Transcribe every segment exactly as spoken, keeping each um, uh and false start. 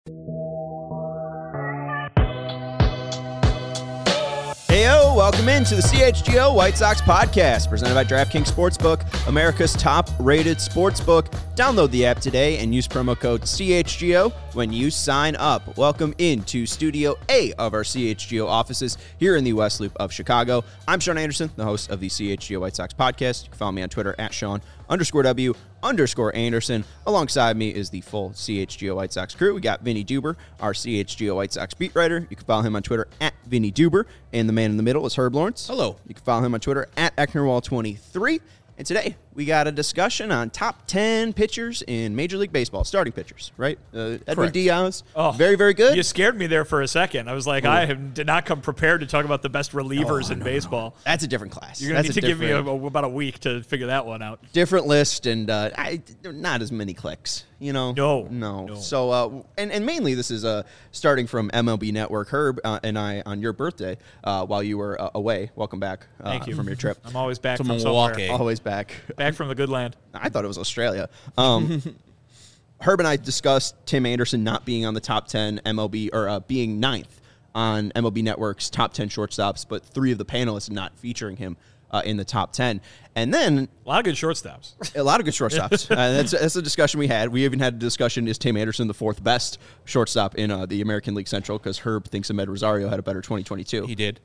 Heyo, welcome into the C H G O White Sox podcast, presented by DraftKings Sportsbook, America's top-rated sportsbook. Download the app today and use promo code C H G O when you sign up. Welcome into Studio A of our C H G O offices here in the West Loop of Chicago. I'm Sean Anderson, the host of the C H G O White Sox podcast. You can follow me on Twitter at Sean underscore W underscore Anderson. Alongside me is the full C H G O White Sox crew. We got Vinny Duber, our C H G O White Sox beat writer. You can follow him on Twitter at Vinny Duber. And the man in the middle is Herb Lawrence. Hello. You can follow him on Twitter at Ecknerwall twenty-three. And today, we got a discussion on top ten pitchers in Major League Baseball, starting pitchers, right? Uh, Edwin Correct. Diaz, Oh, very, very good. You scared me there for a second. I was like, Ooh. I have, did not come prepared to talk about the best relievers Oh, in no, baseball. no. That's a different class. You're going to That's need to give me a, different- a, about a week to figure that one out. different list, and uh, I, not as many clicks, you know? No. No. No. So, uh, and, and mainly this is uh, starting from M L B Network. Herb uh, and I, on your birthday, uh, while you were uh, away, welcome back uh, Thank you. from your trip. I'm always back To from Milwaukee. somewhere. Always back. Back from the good land. I thought it was Australia. Um, Herb and I discussed Tim Anderson not being on the top ten M L B, or uh, being ninth on M L B Network's top ten shortstops, but three of the panelists not featuring him uh, in the top ten. And then A lot of good shortstops. a lot of good shortstops. uh, that's, that's a discussion we had. We even had a discussion, is Tim Anderson the fourth best shortstop in uh, the American League Central? Because Herb thinks Ahmed Rosario had a better twenty twenty-two. He did.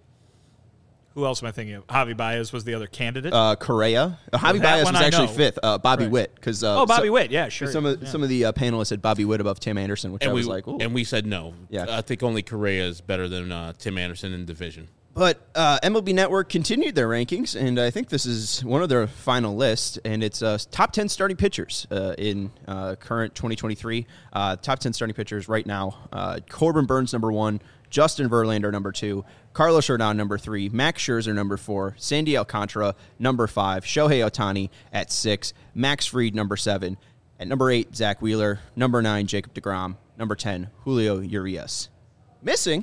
Who else am I thinking of? Javi Baez was the other candidate. Uh, Correa. Uh, Javi that Baez one was I actually know. fifth. Uh, Bobby Right. Witt. Cause, uh, oh, Bobby so- Witt. Yeah, sure. Some of Yeah. some of the uh, panelists had Bobby Witt above Tim Anderson, which And I we was like, ooh. and we said no. Yeah. I think only Correa is better than uh, Tim Anderson in division. But uh, M L B Network continued their rankings, and I think this is one of their final lists, and it's uh, top ten starting pitchers uh, in uh, current twenty twenty-three. Uh, top ten starting pitchers right now. Uh, Corbin Burns, number one. Justin Verlander, number two. Carlos Rodon, number three. Max Scherzer, number four. Sandy Alcantara, number five. Shohei Ohtani at six. Max Fried, number seven. At number eight, Zach Wheeler. Number nine, Jacob deGrom. Number ten, Julio Urias. Missing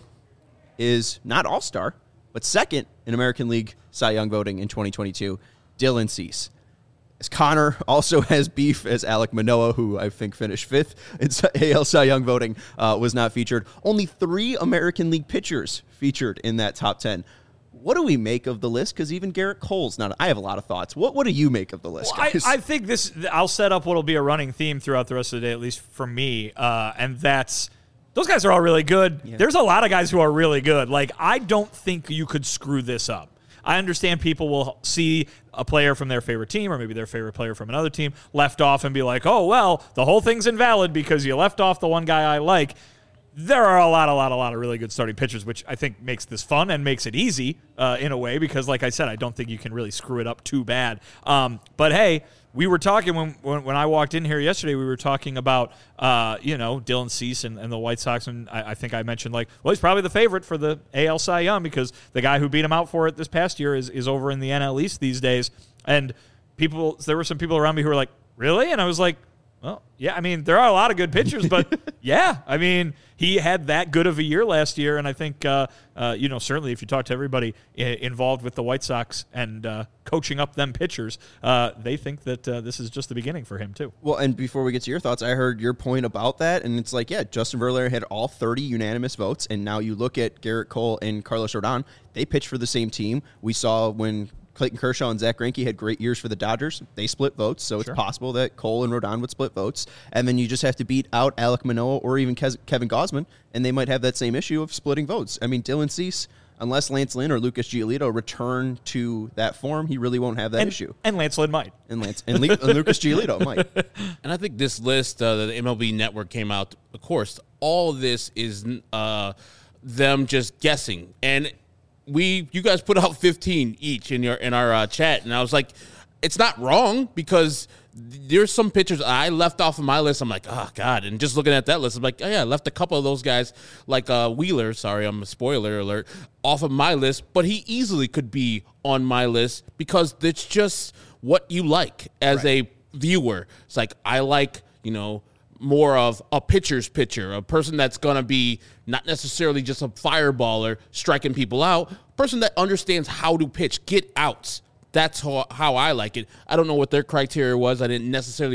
is not all-star, but second in American League Cy Young voting in twenty twenty-two, Dylan Cease. As Connor also has beef as Alek Manoah, who I think finished fifth in A L Cy Young voting, uh, was not featured. Only three American League pitchers featured in that top ten. What do we make of the list? Because even Garrett Cole's not. I have a lot of thoughts. What What do you make of the list, Well, I, guys? I think this, I'll set up what will be a running theme throughout the rest of the day, at least for me, uh, and that's, those guys are all really good. Yeah. There's a lot of guys who are really good. Like, I don't think you could screw this up. I understand people will see a player from their favorite team or maybe their favorite player from another team left off and be like, oh, well, the whole thing's invalid because you left off the one guy I like. There are a lot, a lot, a lot of really good starting pitchers, which I think makes this fun and makes it easy uh, in a way because, like I said, I don't think you can really screw it up too bad. Um, but, hey, we were talking when, when when I walked in here yesterday, we were talking about, uh, you know, Dylan Cease and, and the White Sox, and I, I think I mentioned, like, well, he's probably the favorite for the A L Cy Young because the guy who beat him out for it this past year is, is over in the N L East these days. And people, there were some people around me who were like, really? And I was like, well, yeah, I mean, there are a lot of good pitchers, but yeah, I mean, he had that good of a year last year, and I think, uh, uh, you know, certainly if you talk to everybody I- involved with the White Sox and uh, coaching up them pitchers, uh, they think that uh, this is just the beginning for him, too. Well, and before we get to your thoughts, I heard your point about that, and it's like, yeah, Justin Verlander had all thirty unanimous votes, and now you look at Garrett Cole and Carlos Rodon, they pitched for the same team. We saw when Clayton Kershaw and Zach Greinke had great years for the Dodgers. They split votes, so Sure. it's possible that Cole and Rodon would split votes. And then you just have to beat out Alek Manoah or even Kes- Kevin Gausman, and they might have that same issue of splitting votes. I mean, Dylan Cease, unless Lance Lynn or Lucas Giolito return to that form, he really won't have that And, issue. and Lance Lynn might. And Lance and, Le- and Lucas Giolito might. And I think this list uh, that the M L B Network came out, of course, all of this is uh, them just guessing. And we, you guys put out fifteen each in your in our uh, chat, and I was like, it's not wrong because there's some pitchers I left off of my list. I'm like, oh God, and just looking at that list, I'm like, oh yeah, I left a couple of those guys like uh, Wheeler. Sorry, I'm a spoiler alert off of my list, but he easily could be on my list because it's just what you like as Right. a viewer. It's like I like, you know, more of a pitcher's pitcher, a person that's going to be not necessarily just a fireballer striking people out, a person that understands how to pitch, get outs. That's how, how I like it. I don't know what their criteria was. I didn't necessarily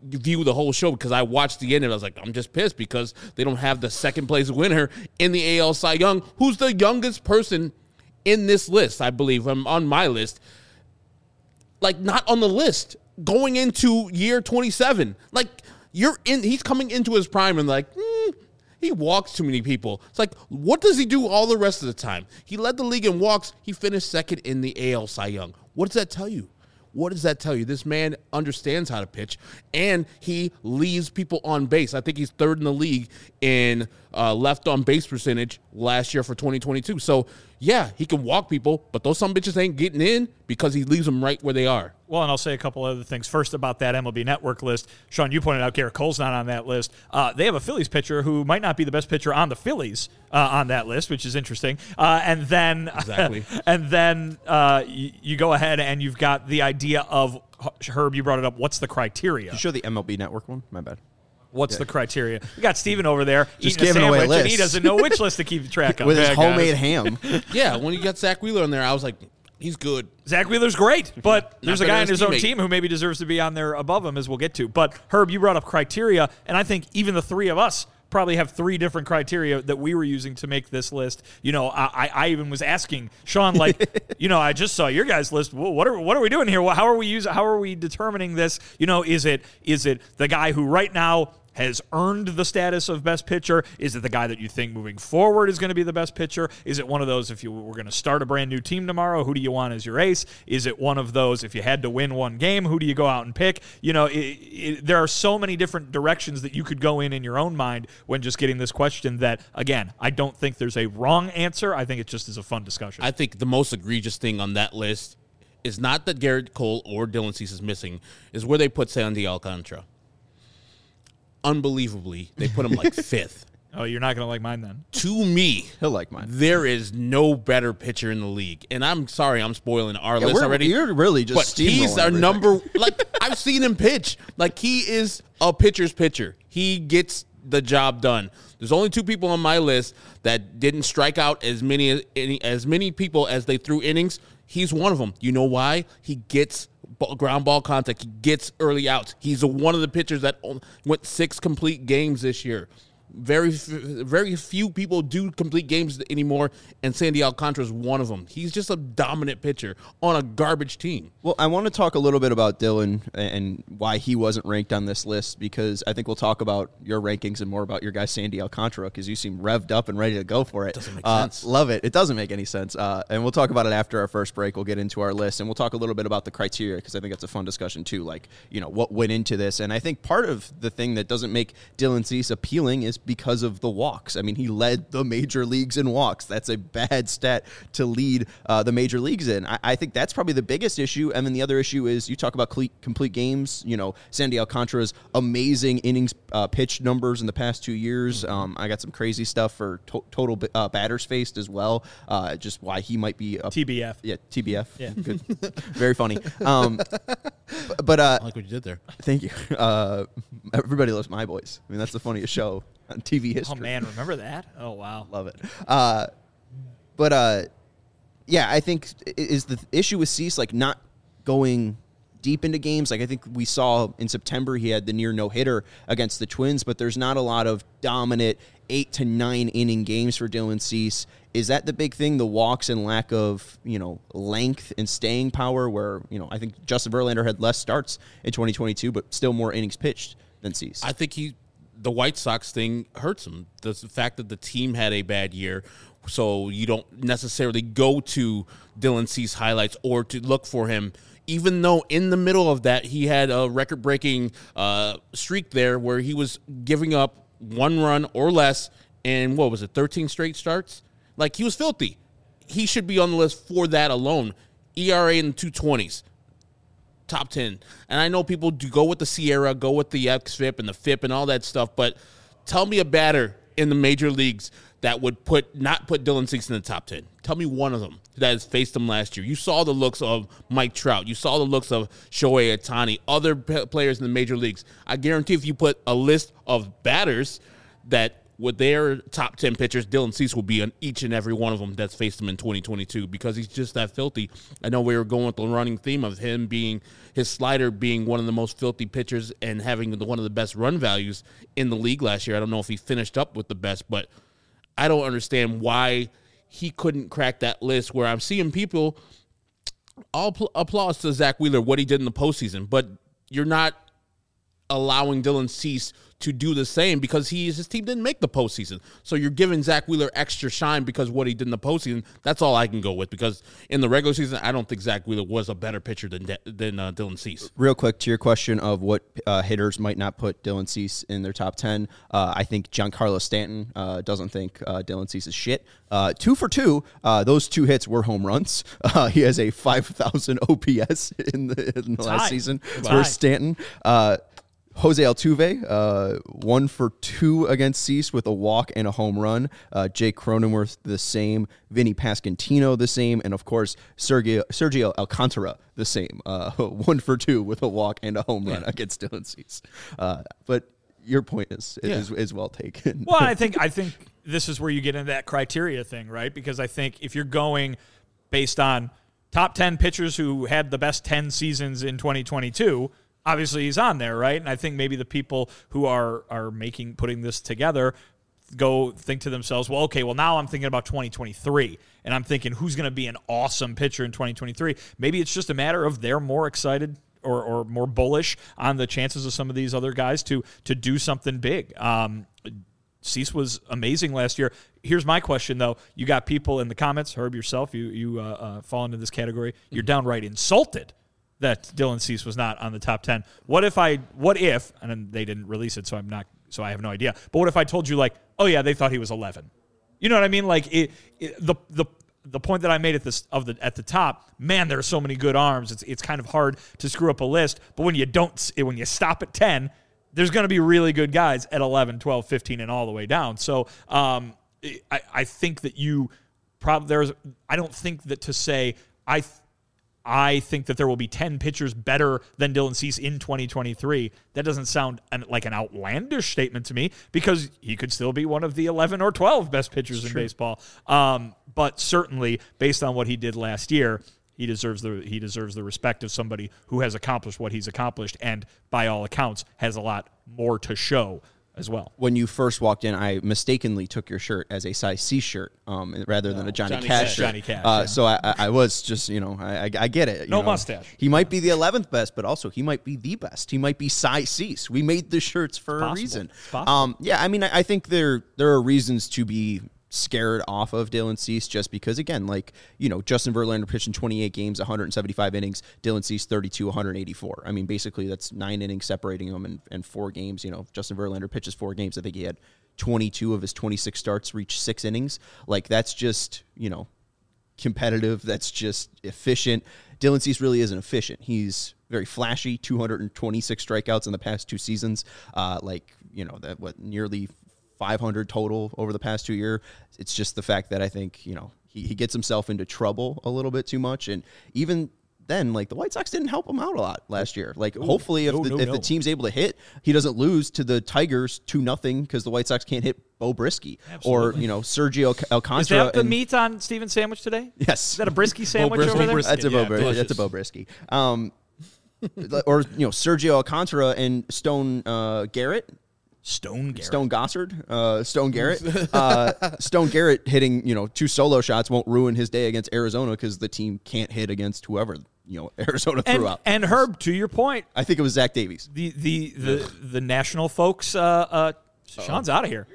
view the whole show because I watched the end and I was like, I'm just pissed because they don't have the second place winner in the A L Cy Young, who's the youngest person in this list, I believe, um, on my list. Like, not on the list going into year twenty-seven. Like, you're in, he's coming into his prime and like, hmm, he walks too many people. It's like, what does he do all the rest of the time? He led the league in walks. He finished second in the A L Cy Young. What does that tell you? What does that tell you? This man understands how to pitch, and he leaves people on base. I think he's third in the league in uh, left on base percentage last year for twenty twenty-two. So, yeah, he can walk people, but those some bitches ain't getting in because he leaves them right where they are. Well, and I'll say a couple other things. First, about that M L B Network list. Sean, you pointed out Garrett Cole's not on that list. Uh, they have a Phillies pitcher who might not be the best pitcher on the Phillies uh, on that list, which is interesting. Uh, and then, exactly. and then uh, you, you go ahead and you've got the idea of, Herb, you brought it up, what's the criteria? Did you show the M L B Network one? My bad. What's yeah. the criteria? We got Steven over there Just eating a giving away sandwich, and he lists. doesn't know which list to keep track of. With his Yeah, homemade guys. ham. Yeah, when you got Zach Wheeler on there, I was like, he's good. Zach Wheeler's great, but there's a better guy than on his his own teammate. team who maybe deserves to be on there above him, as we'll get to. But, Herb, you brought up criteria, and I think even the three of us probably have three different criteria that we were using to make this list. You know, I, I even was asking Sean, like, you know, I just saw your guys' list. Well, what are what are we doing here? How are we using? How are we determining this? You know, is it is it the guy who right now has earned the status of best pitcher? Is it the guy that you think moving forward is going to be the best pitcher? Is it one of those, if you were going to start a brand new team tomorrow, who do you want as your ace? Is it one of those, if you had to win one game, who do you go out and pick? You know, it, it, there are so many different directions that you could go in in your own mind when just getting this question that, again, I don't think there's a wrong answer. I think it just is a fun discussion. I think the most egregious thing on that list is not that Garrett Cole or Dylan Cease is missing, is where they put Sandy Alcantara. Unbelievably, they put him like fifth. Oh, you're not going to like mine then. To me, He'll like mine. there is no better pitcher in the league. And I'm sorry, I'm spoiling our Yeah, list we're- already. You're really just But steamrolling he's our everything. number. Like, I've seen him pitch. Like, he is a pitcher's pitcher. He gets the job done. There's only two people on my list that didn't strike out as many any, as many people as they threw innings. He's one of them. You know why? He gets ball, ground ball contact. He gets early outs. He's a, one of the pitchers that went six complete games this year. Very, very few people do complete games anymore, and Sandy Alcantara is one of them. He's just a dominant pitcher on a garbage team. Well, I want to talk a little bit about Dylan and why he wasn't ranked on this list, because I think we'll talk about your rankings and more about your guy Sandy Alcantara, because you seem revved up and ready to go for it. Doesn't make uh, sense. Love it. It doesn't make any sense. Uh, and we'll talk about it after our first break. We'll get into our list, and we'll talk a little bit about the criteria, because I think that's a fun discussion too, like, you know, what went into this. And I think part of the thing that doesn't make Dylan Cease appealing is because of the walks. I mean, he led the major leagues in walks. That's a bad stat to lead uh, the major leagues in. I, I think that's probably the biggest issue. And then the other issue is you talk about cle- complete games. You know, Sandy Alcantara's amazing innings uh, pitch numbers in the past two years. Um, I got some crazy stuff for to- total uh, batters faced as well. Uh, just why he might be a T B F. Yeah, T B F. Yeah. Good. Very funny. Um, but uh, I like what you did there. thank you. Uh, everybody loves My Boys. I mean, that's the funniest show on T V history. Oh, man, remember that? Oh, wow. Love it. Uh, but uh, yeah, I think i- is the issue with Cease like not going deep into games. Like I think we saw in September he had the near no hitter against the Twins, but there's not a lot of dominant eight to nine inning games for Dylan Cease. Is that the big thing? The walks and lack of, you know, length and staying power, where, you know, I think Justin Verlander had less starts in twenty twenty-two, but still more innings pitched than Cease. I think he, the White Sox thing hurts him. The fact that the team had a bad year, so you don't necessarily go to Dylan Cease highlights or to look for him, even though in the middle of that he had a record-breaking uh, streak there where he was giving up one run or less in, what was it, thirteen straight starts? Like, he was filthy. He should be on the list for that alone. E R A in the two twenties. Top ten. And I know people do go with the Sierra, go with the X F I P and the F I P and all that stuff, but tell me a batter in the major leagues that would put not put Dylan Cease in the top ten. Tell me one of them that has faced him last year. You saw the looks of Mike Trout. You saw the looks of Shohei Ohtani, other p- players in the major leagues. I guarantee if you put a list of batters that with their top ten pitchers, Dylan Cease will be on each and every one of them that's faced him in twenty twenty-two because he's just that filthy. I know we were going with the running theme of him being his slider being one of the most filthy pitchers and having the, one of the best run values in the league last year. I don't know if he finished up with the best, but I don't understand why he couldn't crack that list where I'm seeing people all pl- applause to Zach Wheeler, what he did in the postseason, but you're not allowing Dylan Cease to do the same because he his team didn't make the postseason. So you're giving Zach Wheeler extra shine because what he did in the postseason. That's all I can go with because in the regular season, I don't think Zach Wheeler was a better pitcher than than uh, Dylan Cease. Real quick to your question of what uh, hitters might not put Dylan Cease in their top ten. Uh, I think Giancarlo Stanton uh, doesn't think uh, Dylan Cease is shit. Uh, two for two. Uh, those two hits were home runs. Uh, he has a five thousand O P S in the, in the last high. season It's for high. Stanton. Uh, Jose Altuve, uh, one for two against Cease with a walk and a home run. Uh, Jake Cronenworth, the same. Vinny Pasquantino, the same. And, of course, Sergio, Sergio Alcantara, the same. Uh, one for two with a walk and a home run yeah. against Dylan Cease. Uh, but your point is, yeah. is is well taken. Well, I think I think this is where you get into that criteria thing, right? Because I think if you're going based on top ten pitchers who had the best ten seasons in twenty twenty-two – obviously he's on there, right? And I think maybe the people who are are making putting this together go think to themselves, well, okay, well, now I'm thinking about twenty twenty-three, and I'm thinking who's going to be an awesome pitcher in twenty twenty-three. Maybe it's just a matter of they're more excited or, or more bullish on the chances of some of these other guys to to do something big. Um, Cease was amazing last year. Here's my question, though. You got people in the comments, Herb, yourself, you, you uh, uh, fall into this category. You're downright insulted that Dylan Cease was not on the top ten. What if I, what if, and then they didn't release it, so I'm not, so I have no idea. But what if I told you, like, oh yeah, they thought he was eleven? You know what I mean? Like it, it the the the point that I made at this of the at the top. Man, there are so many good arms. It's it's kind of hard to screw up a list. But when you don't, when you stop at ten, there's going to be really good guys at eleven, twelve, fifteen, and all the way down. So um, I I think that you probably there's. I don't think that to say I. Th- I think that there will be ten pitchers better than Dylan Cease in twenty twenty-three. That doesn't sound an, like an outlandish statement to me because he could still be one of the eleven or twelve best pitchers it's in true. baseball. Um, but certainly, based on what he did last year, he deserves the he deserves the respect of somebody who has accomplished what he's accomplished and, by all accounts, has a lot more to show as well. When you first walked in, I mistakenly took your shirt as a size C shirt um, rather than a Johnny, Johnny Cash Cash. shirt. Johnny Cash, uh, yeah. So I, I was just, you know, I, I, I get it. You no know. mustache. He might be the eleventh best, but also he might be the best. He might be size Cease. We made the shirts for It's a possible. reason. It's possible. Um, yeah, I mean, I, I think there there are reasons to be scared off of Dylan Cease just because, again, like, you know, Justin Verlander pitched in twenty-eight games, one hundred seventy-five innings, Dylan Cease thirty-two, one hundred eighty-four. I mean, basically that's nine innings separating them in, in four games. You know, Justin Verlander pitches four games. I think he had twenty-two of his twenty-six starts reach six innings. Like, that's just, you know, competitive. That's just efficient. Dylan Cease really isn't efficient. He's very flashy, two hundred twenty-six strikeouts in the past two seasons. Uh, like, you know, that what nearly five hundred total over the past two years. It's just the fact that I think, you know, he, he gets himself into trouble a little bit too much. And even then, like, the White Sox didn't help him out a lot last year. Like, Ooh, hopefully if, no, the, no, if no. the team's able to hit, he doesn't lose to the Tigers two nothing because the White Sox can't hit Bo Brisky. Absolutely. Or, you know, Sergio Alcantara. Is that the and, meat on Steven's sandwich today? Yes. Is that a Brisky sandwich Brisky. over there? Brisket, That's a Bo, yeah, Bris- delicious. that's a Bo Brisky. Um, or, you know, Sergio Alcantara and Stone uh, Garrett. Stone Garrett. Stone Gossard, uh, Stone Garrett, uh, Stone Garrett hitting, you know, two solo shots won't ruin his day against Arizona because the team can't hit against whoever, you know, Arizona and, threw out. And Herb, to your point, I think it was Zach Davies. the the the, the national folks. Uh, uh, Sean's out of here.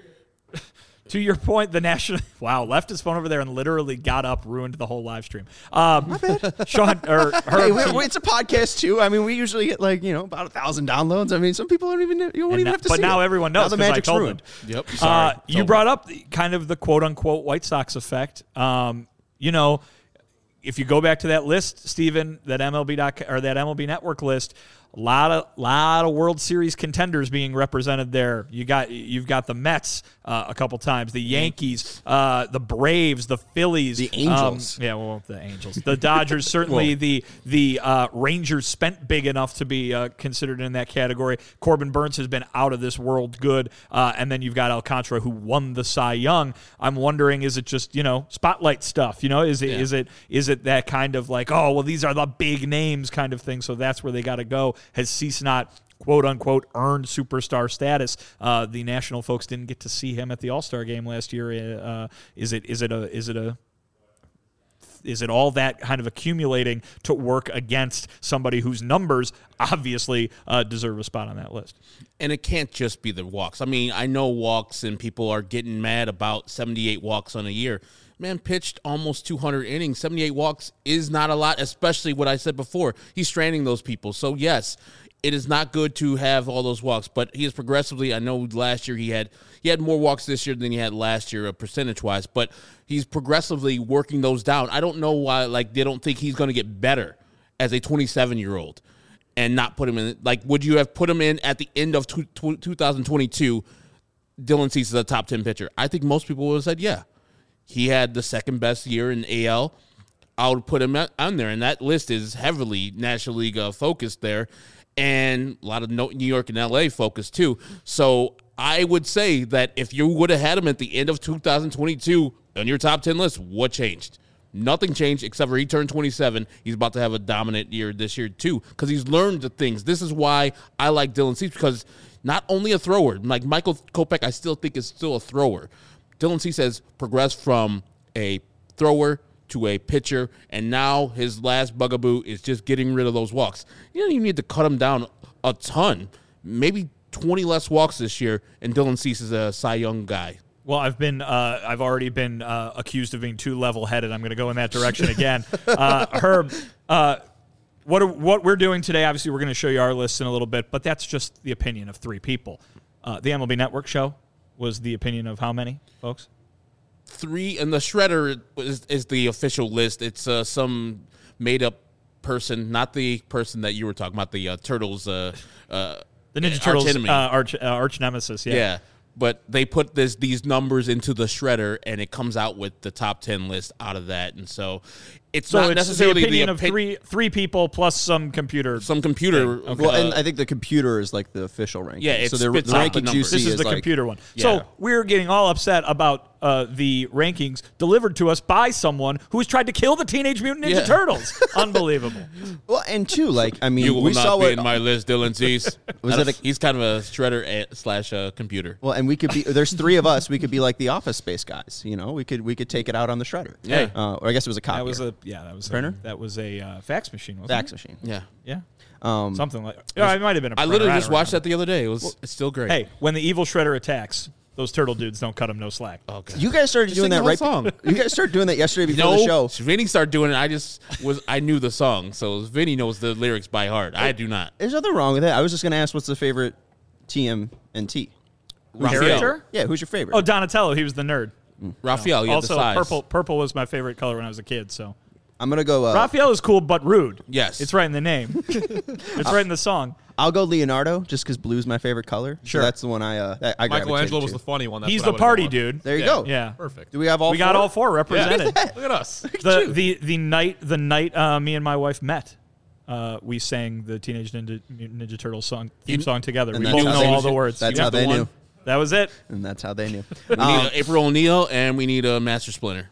To your point, the national wow left his phone over there and literally got up, ruined the whole live stream. Um, My bad, Sean or Herb. Hey, we, we, it's a podcast too. I mean, we usually get like you know about a thousand downloads. I mean, some people don't even you don't even now, have to but see now it. everyone Now knows the 'cause I magic's told ruined. them. Yep. Sorry. Uh, you brought up the, kind of the quote unquote White Sox effect. Um, you know, if you go back to that list, Steven, that M L B doc, or that M L B Network list, A lot of lot of World Series contenders being represented there. You got you've got the Mets uh, a couple times, the Yankees, uh, the Braves, the Phillies, the Angels. Um, yeah, well, the Angels, the Dodgers. Certainly, the the uh, Rangers spent big enough to be uh, considered in that category. Corbin Burns has been out of this world good, uh, and then you've got Alcantara who won the Cy Young. I'm wondering, is it just you know spotlight stuff? You know, is it Yeah. is it is it that kind of like, oh well, these are the big names kind of thing? So that's where they got to go. Has Cease not, quote unquote, earned superstar status? Uh, the national folks didn't get to see him at the All-Star game last year. Uh, is it is it a is it a is it all that kind of accumulating to work against somebody whose numbers obviously uh, deserve a spot on that list? And it can't just be the walks. I mean, I know walks and people are getting mad about seventy-eight walks on a year. Man pitched almost two hundred innings. seventy-eight walks is not a lot, especially what I said before. He's stranding those people. So, yes, it is not good to have all those walks, but he is progressively, I know last year he had he had more walks this year than he had last year, uh, percentage-wise, but he's progressively working those down. I don't know why, like, they don't think he's going to get better as a twenty-seven-year-old and not put him in. Like, would you have put him in at the end of two thousand twenty-two, Dylan Cease is a top ten pitcher? I think most people would have said, yeah. He had the second best year in A L. I would put him on there, and that list is heavily National League uh, focused there, and a lot of New York and L A focused too. So I would say that if you would have had him at the end of two thousand twenty-two on your top ten list, what changed? Nothing changed except for he turned twenty-seven. He's about to have a dominant year this year too because he's learned the things. This is why I like Dylan Cease, because not only a thrower, like Michael Kopech I still think is still a thrower. Dylan Cease has progressed from a thrower to a pitcher, and now his last bugaboo is just getting rid of those walks. You don't even need to cut him down a ton. Maybe twenty less walks this year, and Dylan Cease is a Cy Young guy. Well, I've been, uh, I've already been uh, accused of being too level-headed. I'm going to go in that direction again. uh, Herb, uh, what are, what we're doing today? Obviously, we're going to show you our lists in a little bit, but that's just the opinion of three people. Uh, the M L B Network show was the opinion of how many folks? Three, and the Shredder is, is the official list. It's uh, some made-up person, not the person that you were talking about, the uh, Turtles. Uh, uh, the Ninja arch Turtles enemy. uh, arch, uh, arch nemesis, yeah. Yeah, but they put this these numbers into the Shredder, and it comes out with the top ten list out of that. And so it's So not it's necessarily the opinion the of opi- three three people plus some computer. some computer. Okay. Well, uh, and I think the computer is like the official ranking. Yeah, it so the, spits the out the rankings you numbers. see This is the like, computer one. Yeah. So we're getting all upset about uh, the rankings delivered to us by someone who has tried to kill the Teenage Mutant Ninja Yeah. Turtles. Unbelievable. Well, and two, like I mean, you will we not saw be what. in my list, Dylan Cease. Was Not that a- a- he's kind of a Shredder a- slash uh, computer. well, and we could be. There's three of us. We could be like the Office Space guys. You know, we could we could take it out on the Shredder. Yeah. Uh, or I guess it was a copy. That was a yeah. That was Printer? A, that was a uh, fax machine. Wasn't fax it? machine. Yeah, Yeah. Um, Something like. Yeah, it might have been a I printer. literally don't just watched remember. that the other day. It was it's still great. Hey, when the evil Shredder attacks, those turtle dudes don't cut him no slack. oh, God. You guys started Just doing sing that the whole right. song. You guys started doing that yesterday before no, the show. Vinny started doing it. I just was I knew the song, so Vinny knows the lyrics by heart. I do not. There's nothing wrong with that. I was just going to ask, what's the favorite T M N T? Raphael. Character? Yeah, who's your favorite? Oh, Donatello. He was the nerd. Raphael, you had also, the size. purple. Purple was my favorite color when I was a kid. So I'm gonna go. Uh, Raphael is cool but rude. Yes. It's right in the name. It's right in the song. I'll go Leonardo, just because blue's my favorite color. Sure. So that's the one I. Uh, that I Michelangelo gravitated was to. the funny one. That's He's what I the would've party gone. dude. There you Yeah. go. Yeah. Perfect. Do we have all? We got four? all four represented. Look at us. the the the night the night uh, me and my wife met, uh, we sang the Teenage Ninja, Mutant Ninja Turtles song theme song together. And We that's both how know they- all the words. That's Yeah. how they the knew, one. That was it. and that's how they knew. We need Um, uh, April O'Neil, and we need a Master Splinter.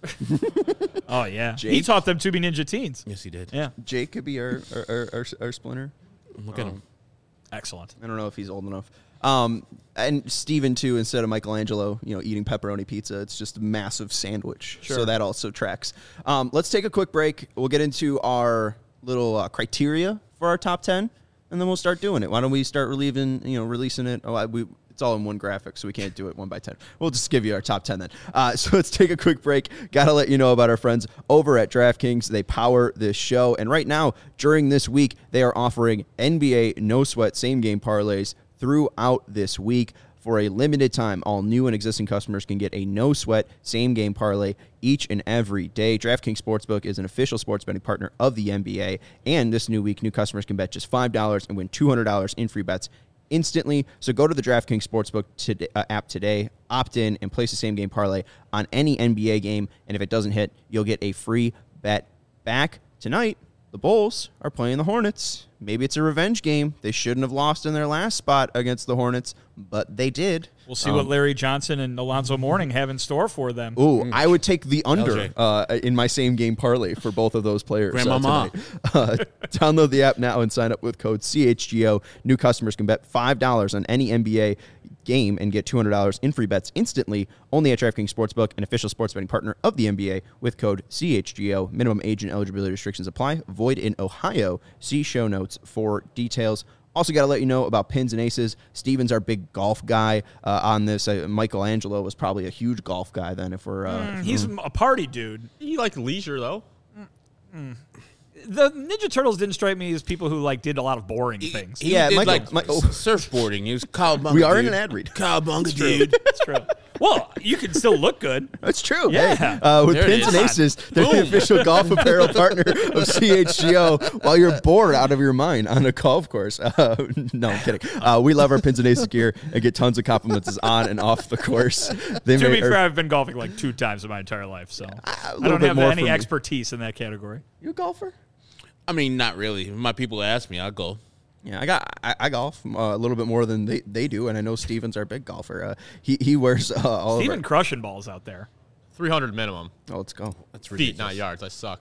Oh yeah. He Jake? taught them to be Ninja Teens. Yes, he did. Yeah. Jake could be our our, our, our, our Splinter. Look at him. Excellent. I don't know if he's old enough. Um, and Steven, too, instead of Michelangelo, you know, eating pepperoni pizza, it's just a massive sandwich. Sure. So that also tracks. Um, let's take a quick break. We'll get into our little uh, criteria for our top ten, and then we'll start doing it. Why don't we start relieving, you know, releasing it? Oh, I, we, it's all in one graphic, so we can't do it one by ten. We'll just give you our top ten then. Uh, so let's take a quick break. Got to let you know about our friends over at DraftKings. They power this show. And right now, during this week, they are offering N B A no-sweat same-game parlays throughout this week. For a limited time, all new and existing customers can get a no-sweat same-game parlay each and every day. DraftKings Sportsbook is an official sports betting partner of the N B A, and this new week, new customers can bet just five dollars and win two hundred dollars in free bets instantly. So go to the DraftKings Sportsbook today, uh, app today, opt in, and place the same-game parlay on any N B A game, and if it doesn't hit, you'll get a free bet back. Tonight, the Bulls are playing the Hornets. Maybe it's a revenge game. They shouldn't have lost in their last spot against the Hornets, but they did. We'll see Um, what Larry Johnson and Alonzo Mourning have in store for them. Ooh, I would take the under L J. uh, in my same game parlay for both of those players. uh, Grandmama. tonight. Uh, download the app now and sign up with code C H G O. New customers can bet five dollars on any N B A game and get two hundred dollars in free bets instantly. Only at DraftKings Sportsbook, an official sports betting partner of the N B A, with code C H G O. Minimum age and eligibility restrictions apply. Void in Ohio. See show notes for details. Also, got to let you know about Pins and Aces. Steven's our big golf guy uh, on this. Uh, Michelangelo was probably a huge golf guy then. If we're uh, Mm, he's a party dude. You like leisure, though. The Ninja Turtles didn't strike me as people who like did a lot of boring things. He Yeah, did Michael- like Mi- oh. surfboarding. He was cowabunga. We are in dude. an ad read. Cowabunga, dude. That's true. Well, you can still look good. That's true. Yeah. Hey, uh, with There it Pins and is. Aces, they're the official golf apparel partner of C H G O while you're bored out of your mind on a golf course. Uh, no, I'm kidding. Uh, we love our Pins and Aces gear and get tons of compliments on and off the course. They To may- be or- fair, I've been golfing like two times in my entire life, so I little don't bit have more any for me. expertise in that category. You a golfer? I mean, not really. If my people ask me, I'll go. Yeah, I got I, I golf uh, a little bit more than they, they do, and I know Steven's our big golfer. Uh, he he wears uh, all Even of crushing balls out there. three hundred minimum. our, oh, let's go. That's Feet, ridiculous. not yards. I suck.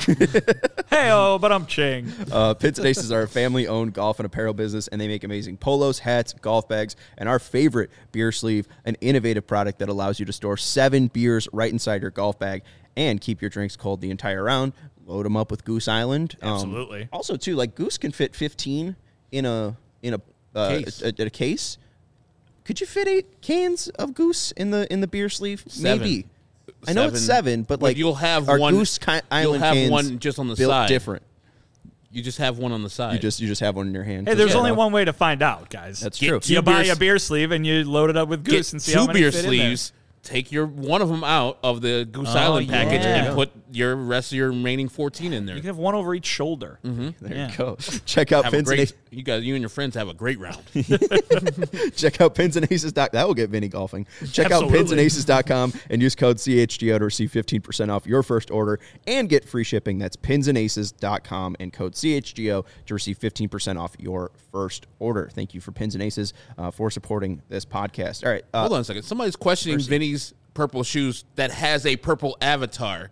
Hey, oh, but I'm ching. Uh, Pins and Aces are a family-owned golf and apparel business, and they make amazing polos, hats, golf bags, and our favorite beer sleeve, an innovative product that allows you to store seven beers right inside your golf bag and keep your drinks cold the entire round. Load them up with Goose Island. Um, Absolutely. Also, too, like Goose can fit fifteen in a in a uh, Case. A, a, a case. Could you fit eight cans of Goose in the in the beer sleeve? Seven. Maybe. I know it's Seven. seven, but But like you'll have our one- Goose ki- Island you'll have cans one just on the built side. different. You just have one on the side. You just you just have one in your hand. Hey, there's Just only enough. one way to find out, guys. That's Get true. two You buy beers- a beer sleeve and you load it up with get Goose and see two how many beer fit in there. sleeves. Take your one of them out of the Goose Oh, Island package yeah. and put your rest of your remaining fourteen in there. You can have one over each shoulder. There Yeah. you go. Check out Have a Pins and great, Aces. you guys, you and your friends have a great round. Check out Pins and Aces. That will get Vinny golfing. Check out Absolutely. pins and aces dot com and use code C H G O to receive fifteen percent off your first order and get free shipping. That's pins and aces dot com and code C H G O to receive fifteen percent off your first order. Thank you for Pins and Aces uh, for supporting this podcast. All right. Uh, Hold on a second. Somebody's questioning Percy. Vinny's purple shoes that has a purple avatar.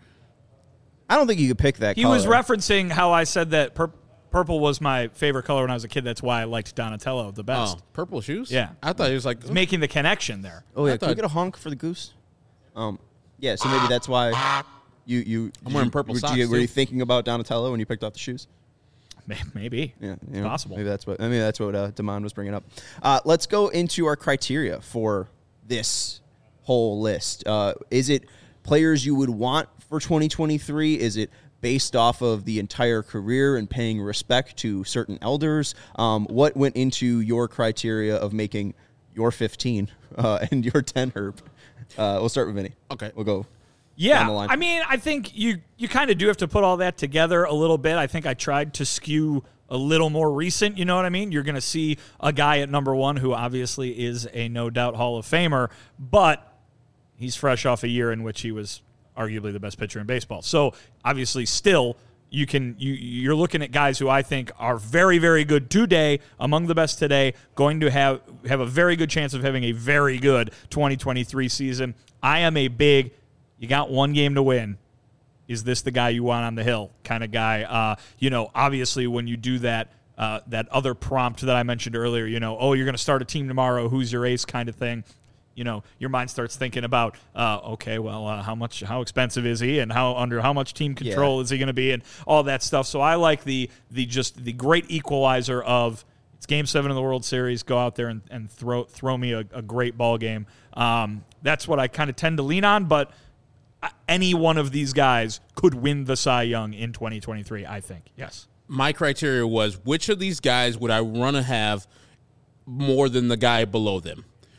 I don't think you could pick that He color. was referencing how I said that pur- purple was my favorite color when I was a kid. That's why I liked Donatello the best. Oh, purple shoes? Yeah. I thought he was like, Making the connection there. Oh, yeah. I Can we thought- get a honk for the Goose? Um, Yeah, so maybe that's why you... you I'm wearing you- purple were, socks, you, were too. you thinking about Donatello when you picked out the shoes? May- Maybe. Yeah, It's you know, possible. Maybe that's what. I mean, that's what uh, Damon was bringing up. Uh, let's go into our criteria for this whole list. Uh, is it players you would want for twenty twenty-three? Is it based off of the entire career and paying respect to certain elders? Um, what went into your criteria of making your fifteen uh, and your ten, Herb? Uh, we'll start with Vinny. Okay. We'll go. Yeah, down the line. I mean, I think you you kind of do have to put all that together a little bit. I think I tried to skew a little more recent, you know what I mean? You're going to see a guy at number one who obviously is a no doubt Hall of Famer, but he's fresh off a year in which he was arguably the best pitcher in baseball. So obviously still you can you you're looking at guys who I think are very, very good today, among the best today, going to have have a very good chance of having a very good twenty twenty-three season. I am a big you got one game to win. Is this the guy you want on the hill kind of guy? Uh, you know, obviously when you do that, uh, that other prompt that I mentioned earlier, you know, oh, you're going to start a team tomorrow. Who's your ace kind of thing. You know, your mind starts thinking about, uh, okay, well, uh, how much, how expensive is he, and how under how much team control Yeah. is he going to be, and all that stuff. So I like the the just the great equalizer of it's Game Seven of the World Series. Go out there and, and throw throw me a, a great ball game. Um, that's what I kind of tend to lean on, but any one of these guys could win the Cy Young in twenty twenty-three, I think. Yes. my criteria was which of these guys would I want to have more than the guy below them?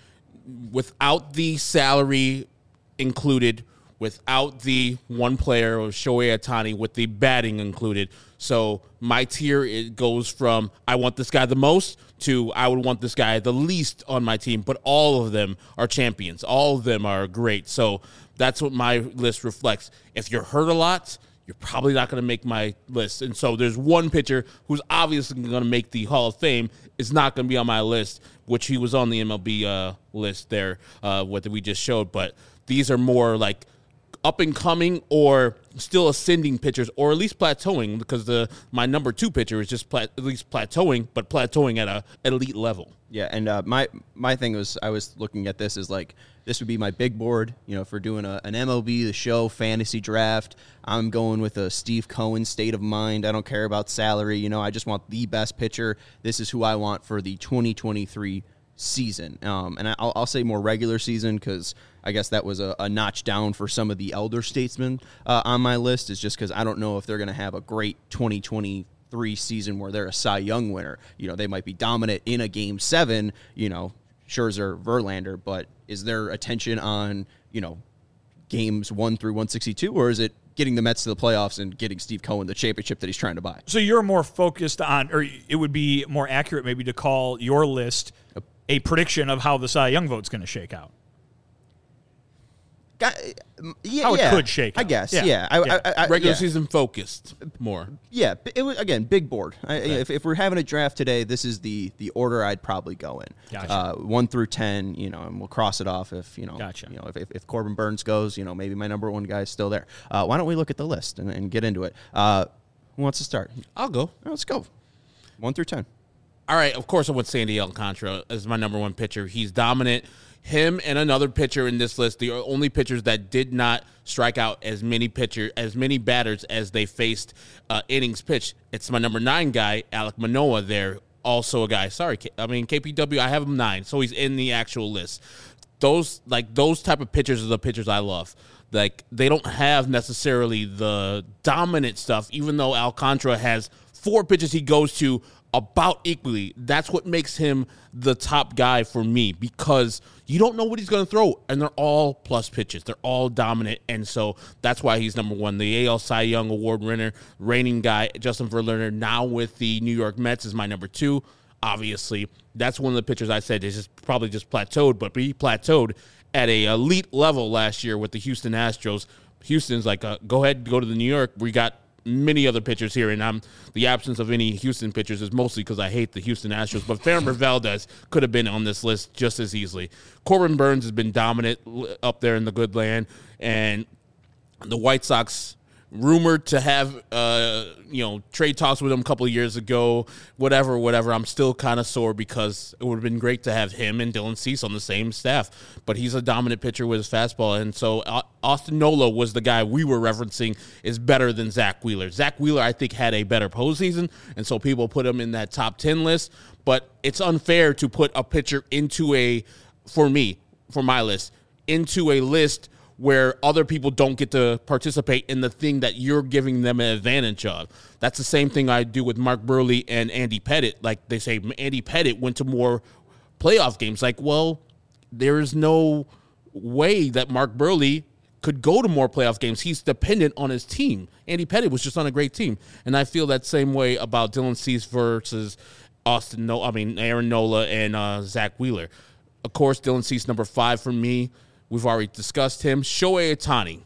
without the salary included, without the one player of Shohei Ohtani, with the batting included. So my tier, it goes from I want this guy the most to I would want this guy the least on my team, but all of them are champions. All of them are great. So that's what my list reflects. If you're hurt a lot, you're probably not going to make my list. And so there's one pitcher who's obviously going to make the Hall of Fame, is not going to be on my list, which he was on the M L B uh, list there, uh, what we just showed. But these are more like up and coming or still ascending pitchers, or at least plateauing, because the my number two pitcher is just plat, at least plateauing, but plateauing at a elite level. Yeah, and uh, my my thing was I was looking at this as like this would be my big board, you know, for doing a, an M L B The Show fantasy draft. I'm going with a Steve Cohen state of mind. I don't care about salary. You know, I just want the best pitcher. This is who I want for the twenty twenty-three season. Um, and I'll, I'll say more regular season because I guess that was a, a notch down for some of the elder statesmen uh, on my list, is just because I don't know if they're going to have a great twenty twenty-three season where they're a Cy Young winner. You know, they might be dominant in a game seven, you know, Scherzer, Verlander, but is there attention on, you know, games one through one sixty-two, or is it getting the Mets to the playoffs and getting Steve Cohen the championship that he's trying to buy? So you're more focused on, or it would be more accurate maybe to call your list a prediction of how the Cy Young vote's going to shake out. Got, yeah, How it yeah, could shake I out. guess, Yeah. yeah. I, Yeah. I, I, Regular yeah. season focused more. Yeah, it was, again, big board. I, if, if we're having a draft today, this is the the order I'd probably go in. Gotcha. Uh, one through ten, you know, and we'll cross it off if you know. Gotcha. You know, if, if, if Corbin Burns goes, you know, maybe my number one guy is still there. Uh, why don't we look at the list and, and get into it? Uh, who wants to start? I'll go. Let's go. One through ten. All right, of course I went Sandy Alcantara as my number one pitcher. He's dominant. Him and another pitcher in this list, the only pitchers that did not strike out as many pitcher, as many batters as they faced uh, innings pitched. It's my number nine guy, Alek Manoah there, also a guy. Sorry, K- I mean, K P W, I have him nine, so he's in the actual list. Those, like, those type of pitchers are the pitchers I love. Like, they don't have necessarily the dominant stuff, even though Alcantara has four pitches he goes to about equally. That's what makes him the top guy for me, because you don't know what he's going to throw, and they're all plus pitches. They're all dominant, and so that's why he's number one. The A L Cy Young Award winner, reigning guy, Justin Verlander, now with the New York Mets, is my number two. Obviously, that's one of the pitchers I said is just probably just plateaued, but he plateaued at a elite level last year with the Houston Astros. Houston's like, uh, go ahead, go to the New York. We got many other pitchers here, and I'm the absence of any Houston pitchers is mostly because I hate the Houston Astros. But Framber Valdez could have been on this list just as easily. Corbin Burns has been dominant up there in the good land, and the White Sox rumored to have uh, you know trade talks with him a couple of years ago. Whatever, whatever. I'm still kind of sore because it would have been great to have him and Dylan Cease on the same staff. But he's a dominant pitcher with his fastball, and so uh, Austin Nola was the guy we were referencing is better than Zach Wheeler. Zach Wheeler, I think, had a better postseason, and so people put him in that top ten list. But it's unfair to put a pitcher into a, for me, for my list, into a list where other people don't get to participate in the thing that you're giving them an advantage of. That's the same thing I do with Mark Burley and Andy Pettitte. Like they say, Andy Pettitte went to more playoff games. Like, well, there is no way that Mark Burley could go to more playoff games. He's dependent on his team. Andy Pettitte was just on a great team. And I feel that same way about Dylan Cease versus Austin, no, I mean, Aaron Nola and uh, Zach Wheeler. Of course, Dylan Cease, number five for me. We've already discussed him. Shohei Ohtani.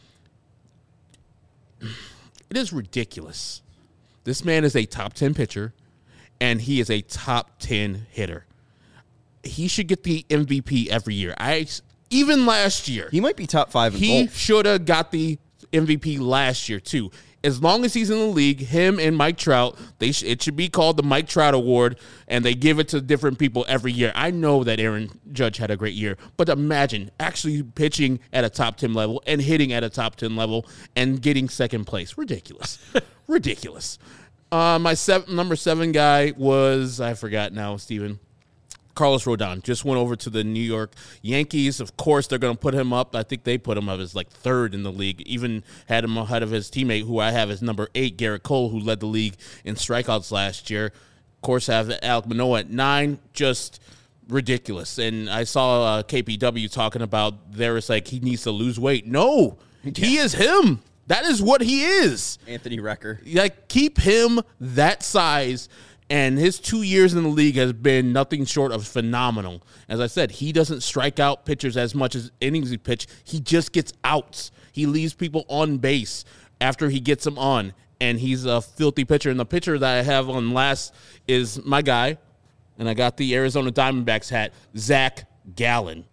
It is ridiculous. This man is a top ten pitcher, and he is a top ten hitter. He should get the M V P every year. I even last year. He might be top five in He both. should have got the M V P last year, too. As long as he's in the league, him and Mike Trout, they sh- it should be called the Mike Trout Award, and they give it to different people every year. I know that Aaron Judge had a great year, but imagine actually pitching at a top ten level and hitting at a top ten level and getting second place. Ridiculous. Ridiculous. Uh, my seven, number seven guy was, I forgot now, Steven. Carlos Rodon just went over to the New York Yankees. Of course, they're going to put him up. I think they put him up as like third in the league. Even had him ahead of his teammate, who I have as number eight, Garrett Cole, who led the league in strikeouts last year. Of course, I have Alek Manoah at nine. Just ridiculous. And I saw uh, K P W talking about there is like he needs to lose weight. No, yeah. He is him. That is what he is. Anthony Recker. Like, keep him that size, and his two years in the league has been nothing short of phenomenal. As I said, he doesn't strike out pitchers as much as innings he pitch. He just gets outs. He leaves people on base after he gets them on, and he's a filthy pitcher. And the pitcher that I have on last is my guy, and I got the Arizona Diamondbacks hat, Zach Gallen.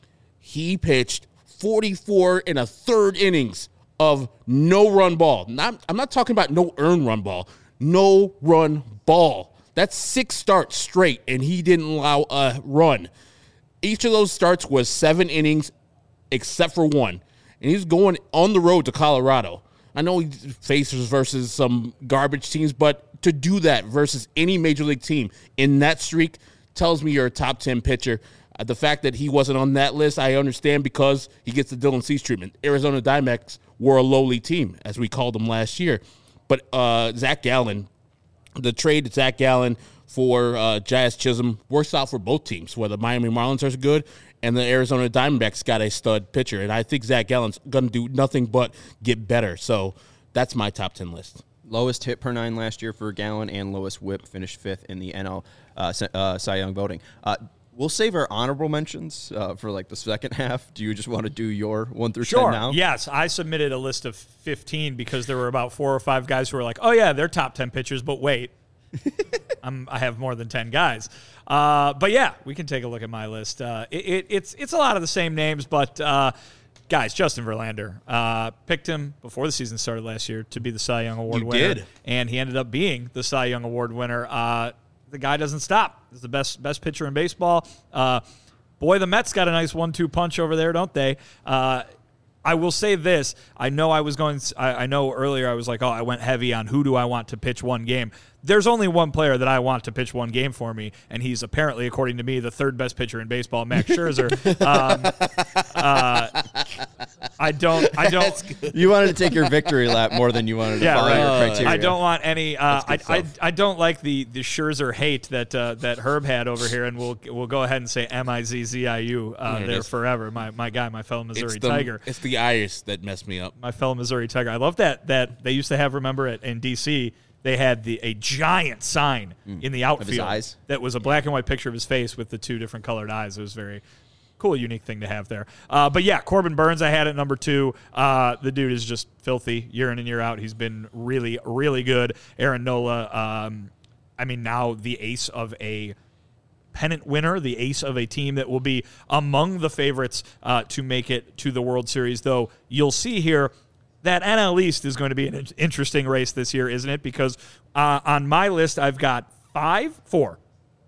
He pitched forty-four and a third innings of no-run ball. Not, I'm not talking about no earned run ball. No-run ball. That's six starts straight, and he didn't allow a run. Each of those starts was seven innings except for one. And he's going on the road to Colorado. I know he faces versus some garbage teams, but to do that versus any major league team in that streak tells me you're a top ten pitcher. Uh, the fact that he wasn't on that list, I understand because he gets the Dylan Cease treatment. Arizona Diamondbacks were a lowly team, as we called them last year. But uh, Zach Gallen, the trade to Zach Gallen for uh, Jazz Chisholm works out for both teams, where the Miami Marlins are good and the Arizona Diamondbacks got a stud pitcher. And I think Zach Gallen's going to do nothing but get better. So that's my top ten list. Lowest hit per nine last year for Gallen and lowest whip, finished fifth in the N L uh, uh, Cy Young voting. Uh, We'll save our honorable mentions uh, for like the second half. Do you just want to do your one through sure. ten now? Yes, I submitted a list of fifteen because there were about four or five guys who were like, "Oh yeah, they're top ten pitchers," but wait, I'm, I have more than ten guys. Uh, but yeah, we can take a look at my list. Uh, it, it, it's it's a lot of the same names, but uh, guys, Justin Verlander uh, picked him before the season started last year to be the Cy Young Award you winner, did. and he ended up being the Cy Young Award winner. Uh, The guy doesn't stop. He's the best best pitcher in baseball. Uh, boy, the Mets got a nice one two punch over there, don't they? Uh, I will say this. I know I was going – I know earlier I was like, oh, I went heavy on who do I want to pitch one game. There's only one player that I want to pitch one game for me, and he's apparently, according to me, the third best pitcher in baseball, Max Scherzer. um, uh, I don't – I don't – You wanted to take your victory lap more than you wanted to Yeah, follow right. your criteria. I don't want any. Uh, I, good I stuff. I don't like the the Scherzer hate that uh, that Herb had over here, and we'll we'll go ahead and say M I Z Z I U uh, Yeah, there it's- forever. My my guy, my fellow Missouri It's the, Tiger, it's the iris that messed me up. my fellow Missouri Tiger. I love that that they used to have. Remember it in D C. They had the a giant sign in the outfield eyes? that was a black and white picture of his face with the two different colored eyes. It was very cool, unique thing to have there. Uh, but yeah, Corbin Burns I had at number two. Uh, the dude is just filthy year in and year out. He's been really, really good. Aaron Nola, um, I mean, now the ace of a pennant winner, the ace of a team that will be among the favorites uh, to make it to the World Series, though you'll see here that N L East is going to be an interesting race this year, isn't it? Because uh, on my list, I've got five, four,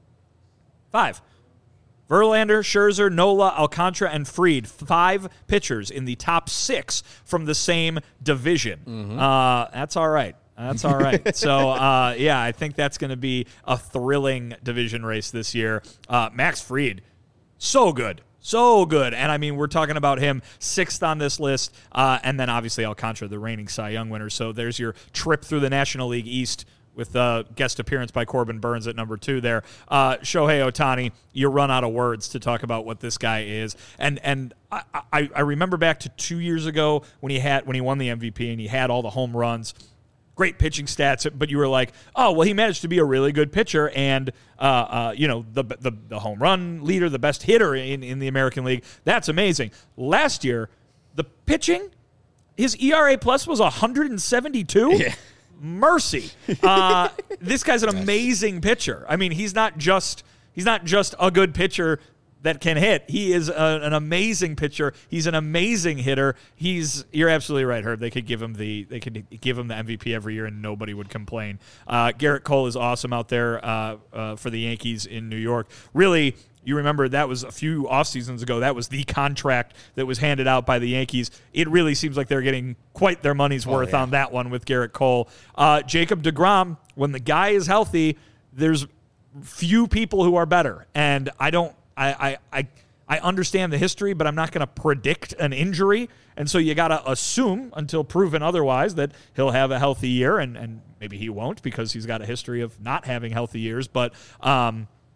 five. Verlander, Scherzer, Nola, Alcantara, and Fried, five pitchers in the top six from the same division. Mm-hmm. Uh, that's all right. That's all right. so, uh, yeah, I think that's going to be a thrilling division race this year. Uh, Max Fried, so good. So good. And, I mean, we're talking about him sixth on this list, uh, and then, obviously, Alcantara, the reigning Cy Young winner. So there's your trip through the National League East with a guest appearance by Corbin Burns at number two there. Uh, Shohei Ohtani, you run out of words to talk about what this guy is. And and I, I, I remember back to two years ago when he had when he won the M V P and he had all the home runs. Great pitching stats, but you were like, oh, well, he managed to be a really good pitcher and, uh, uh, you know, the, the the home run leader, the best hitter in, in the American League. That's amazing. Last year, the pitching, his E R A plus was one hundred seventy-two. Yeah. Mercy. Uh, this guy's an amazing pitcher. I mean, he's not just he's not just a good pitcher that can hit. He is a, an amazing pitcher. He's an amazing hitter. He's you're absolutely right, Herb. They could give him the they could give him the M V P every year and nobody would complain. Uh, Garrett Cole is awesome out there uh, uh, for the Yankees in New York. Really, you remember that was a few off seasons ago. That was the contract that was handed out by the Yankees. It really seems like they're getting quite their money's worth yeah. on that one with Garrett Cole. Uh, Jacob deGrom, when the guy is healthy, there's few people who are better. And I don't I, I, I, I understand the history, but I'm not going to predict an injury. And so you got to assume until proven otherwise that he'll have a healthy year, and, and maybe he won't because he's got a history of not having healthy years. But um,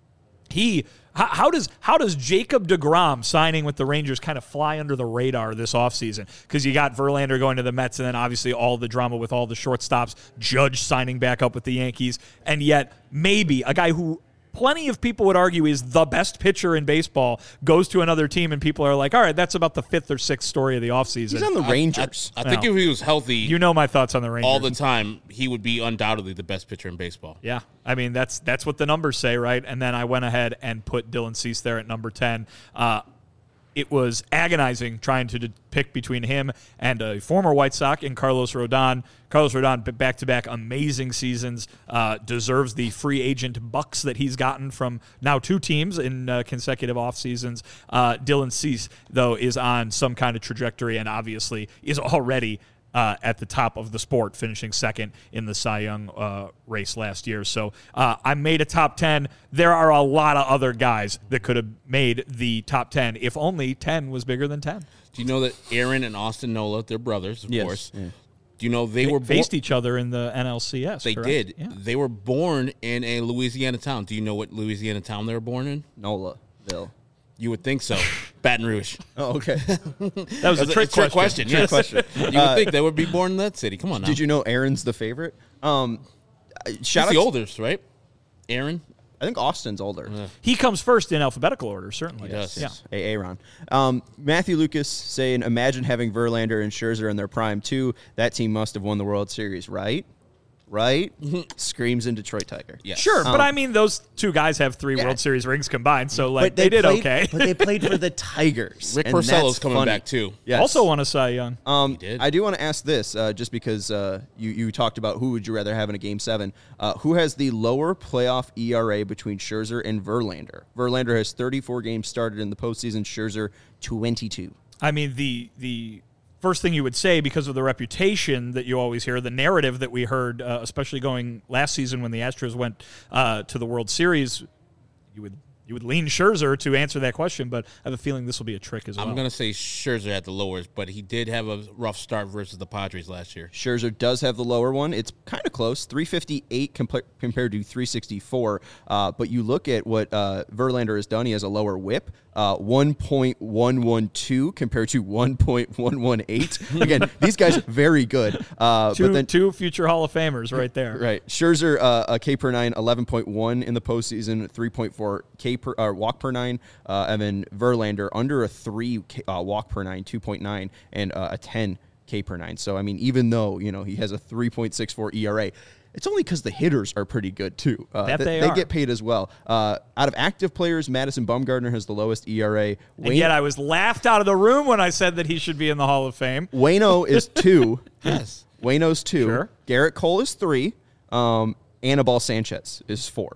He how, how does how does Jacob deGrom signing with the Rangers kind of fly under the radar this offseason? Because you got Verlander going to the Mets, and then obviously all the drama with all the shortstops, Judge signing back up with the Yankees, and yet maybe a guy who plenty of people would argue is the best pitcher in baseball goes to another team, and people are like, all right, that's about the fifth or sixth story of the offseason. He's on the Rangers. I, I think Well, if he was healthy You know my thoughts on the Rangers. all the time, he would be undoubtedly the best pitcher in baseball. Yeah, I mean, that's that's what the numbers say, right? And then I went ahead and put Dylan Cease there at number ten. Uh, it was agonizing trying to d- pick between him and a former White Sox in Carlos Rodon. Carlos Rodon, b- back-to-back amazing seasons, uh, deserves the free agent bucks that he's gotten from now two teams in uh, consecutive off seasons. Uh, Dylan Cease, though, is on some kind of trajectory and obviously is already Uh, at the top of the sport, finishing second in the Cy Young uh, race last year. So uh, I made a top ten. There are a lot of other guys that could have made the top ten if only ten was bigger than ten. Do you know that Aaron and Austin Nola, they're brothers, of Yes, course. yeah. Do you know they They were born? faced each other in the N L C S. They correct? did. Yeah. They were born in a Louisiana town. Do you know what Louisiana town they were born in? Nola-ville. You would think so. Baton Rouge. Oh, okay. That was a That's trick a trick question. question. Yes. question. You would think they would be born in that city. Come on now. Did you know Aaron's the favorite? Um, uh, He's shout out the to- oldest, right? Aaron? I think Austin's older. He comes first in alphabetical order, certainly. He does. Yeah. A. Aaron. Um, Matthew Lucas saying, imagine having Verlander and Scherzer in their prime, too. That team must have won the World Series, right? Right? Screams in Detroit Tiger. Yes. Sure, but Um, I mean, those two guys have three Yeah. World Series rings combined, so like But they, did played, okay. But they played for the Tigers. Rick and Porcello's that's coming funny. back, too. Yes. Also won a Cy Young. Um, He did. I do want to ask this, uh, just because uh, you, you talked about who would you rather have in a Game seven. Uh, who has the lower playoff E R A between Scherzer and Verlander? Verlander has thirty-four games started in the postseason. Scherzer, twenty-two. I mean, the the first thing you would say, because of the reputation that you always hear, the narrative that we heard, uh, especially going last season when the Astros went uh, to the World Series, you would you would lean Scherzer to answer that question, but I have a feeling this will be a trick as well. I'm going to say Scherzer at the lowest, but he did have a rough start versus the Padres last year. Scherzer does have the lower one. It's kind of close, three fifty-eight compa- compared to three sixty-four. Uh, but you look at what uh, Verlander has done. He has a lower whip, uh, one point one one two compared to one point one one eight. Again, these guys are very good. Uh, two, but then, two future Hall of Famers right there. right, Scherzer, uh, a K per nine, eleven point one in the postseason, three point four K per uh, walk per nine, uh, and then Verlander under a three K, uh, walk per nine, two point nine, and uh, a ten K per nine. So I mean, even though you know he has a three point six four E R A, it's only because the hitters are pretty good too. Uh, That th- they they are. get paid as well. Uh, out of active players, Madison Bumgarner has the lowest E R A. And yet I was laughed out of the room when I said that he should be in the Hall of Fame. Wayno is two. Yes. Wayno's two. Sure. Garrett Cole is three. Um, Anibal Sanchez is four.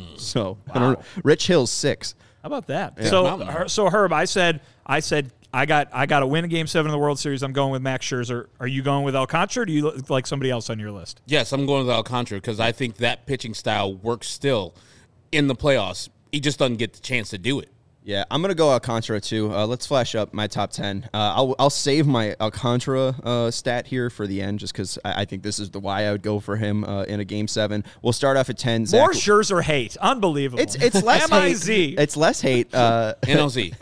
So I don't know. Rich Hill's six. How about that? Yeah. So, Mountain. Her- so Herb, I said, I said, I got, I got to win a Game Seven of the World Series. I'm going with Max Scherzer. Are you going with Alcantara? Or do you look like somebody else on your list? Yes, I'm going with Alcantara because I think that pitching style works still in the playoffs. He just doesn't get the chance to do it. Yeah, I'm gonna go Alcantara too. Uh, let's flash up my top ten. Uh, I'll I'll save my Alcantara uh, stat here for the end, just because I, I think this is the why I would go for him uh, in a Game Seven. We'll start off at ten. Zach, More Scherzer hate. Unbelievable. It's it's less M I hate. Z. It's less hate. Uh, N L Z.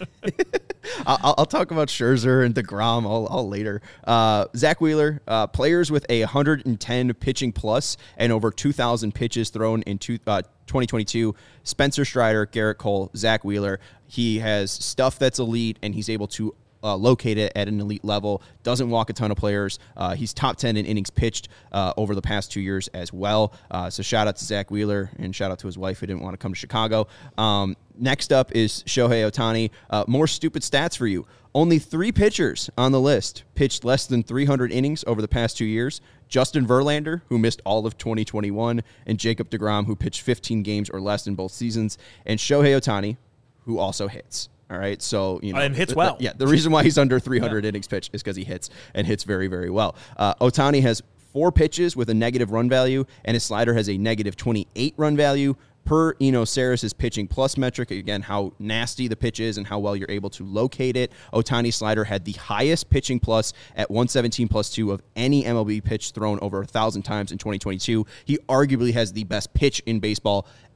I'll, I'll talk about Scherzer and DeGrom all, all later. Uh, Zach Wheeler, uh, players with a one hundred ten pitching plus and over two thousand pitches thrown in two, uh, twenty twenty-two. Spencer Strider, Garrett Cole, Zach Wheeler. He has stuff that's elite, and he's able to uh, locate it at an elite level. Doesn't walk a ton of players. Uh, he's top ten in innings pitched uh, over the past two years as well. Uh, so shout out to Zach Wheeler, and shout out to his wife who didn't want to come to Chicago. Um, next up is Shohei Ohtani. Uh, more stupid stats for you. Only three pitchers on the list pitched less than three hundred innings over the past two years. Justin Verlander, who missed all of twenty twenty-one, and Jacob deGrom, who pitched fifteen games or less in both seasons, and Shohei Ohtani, who also hits. All right, so you know, And hits th- well. Yeah, the reason why he's under three hundred innings pitched is because he hits and hits very, very well. Uh, Ohtani has four pitches with a negative run value, and his slider has a negative twenty-eight run value. Per Eno Saris's pitching plus metric, again, how nasty the pitch is and how well you're able to locate it. Ohtani's slider had the highest pitching plus at one seventeen plus two of any M L B pitch thrown over one thousand times in twenty twenty-two. He arguably has the best pitch in baseball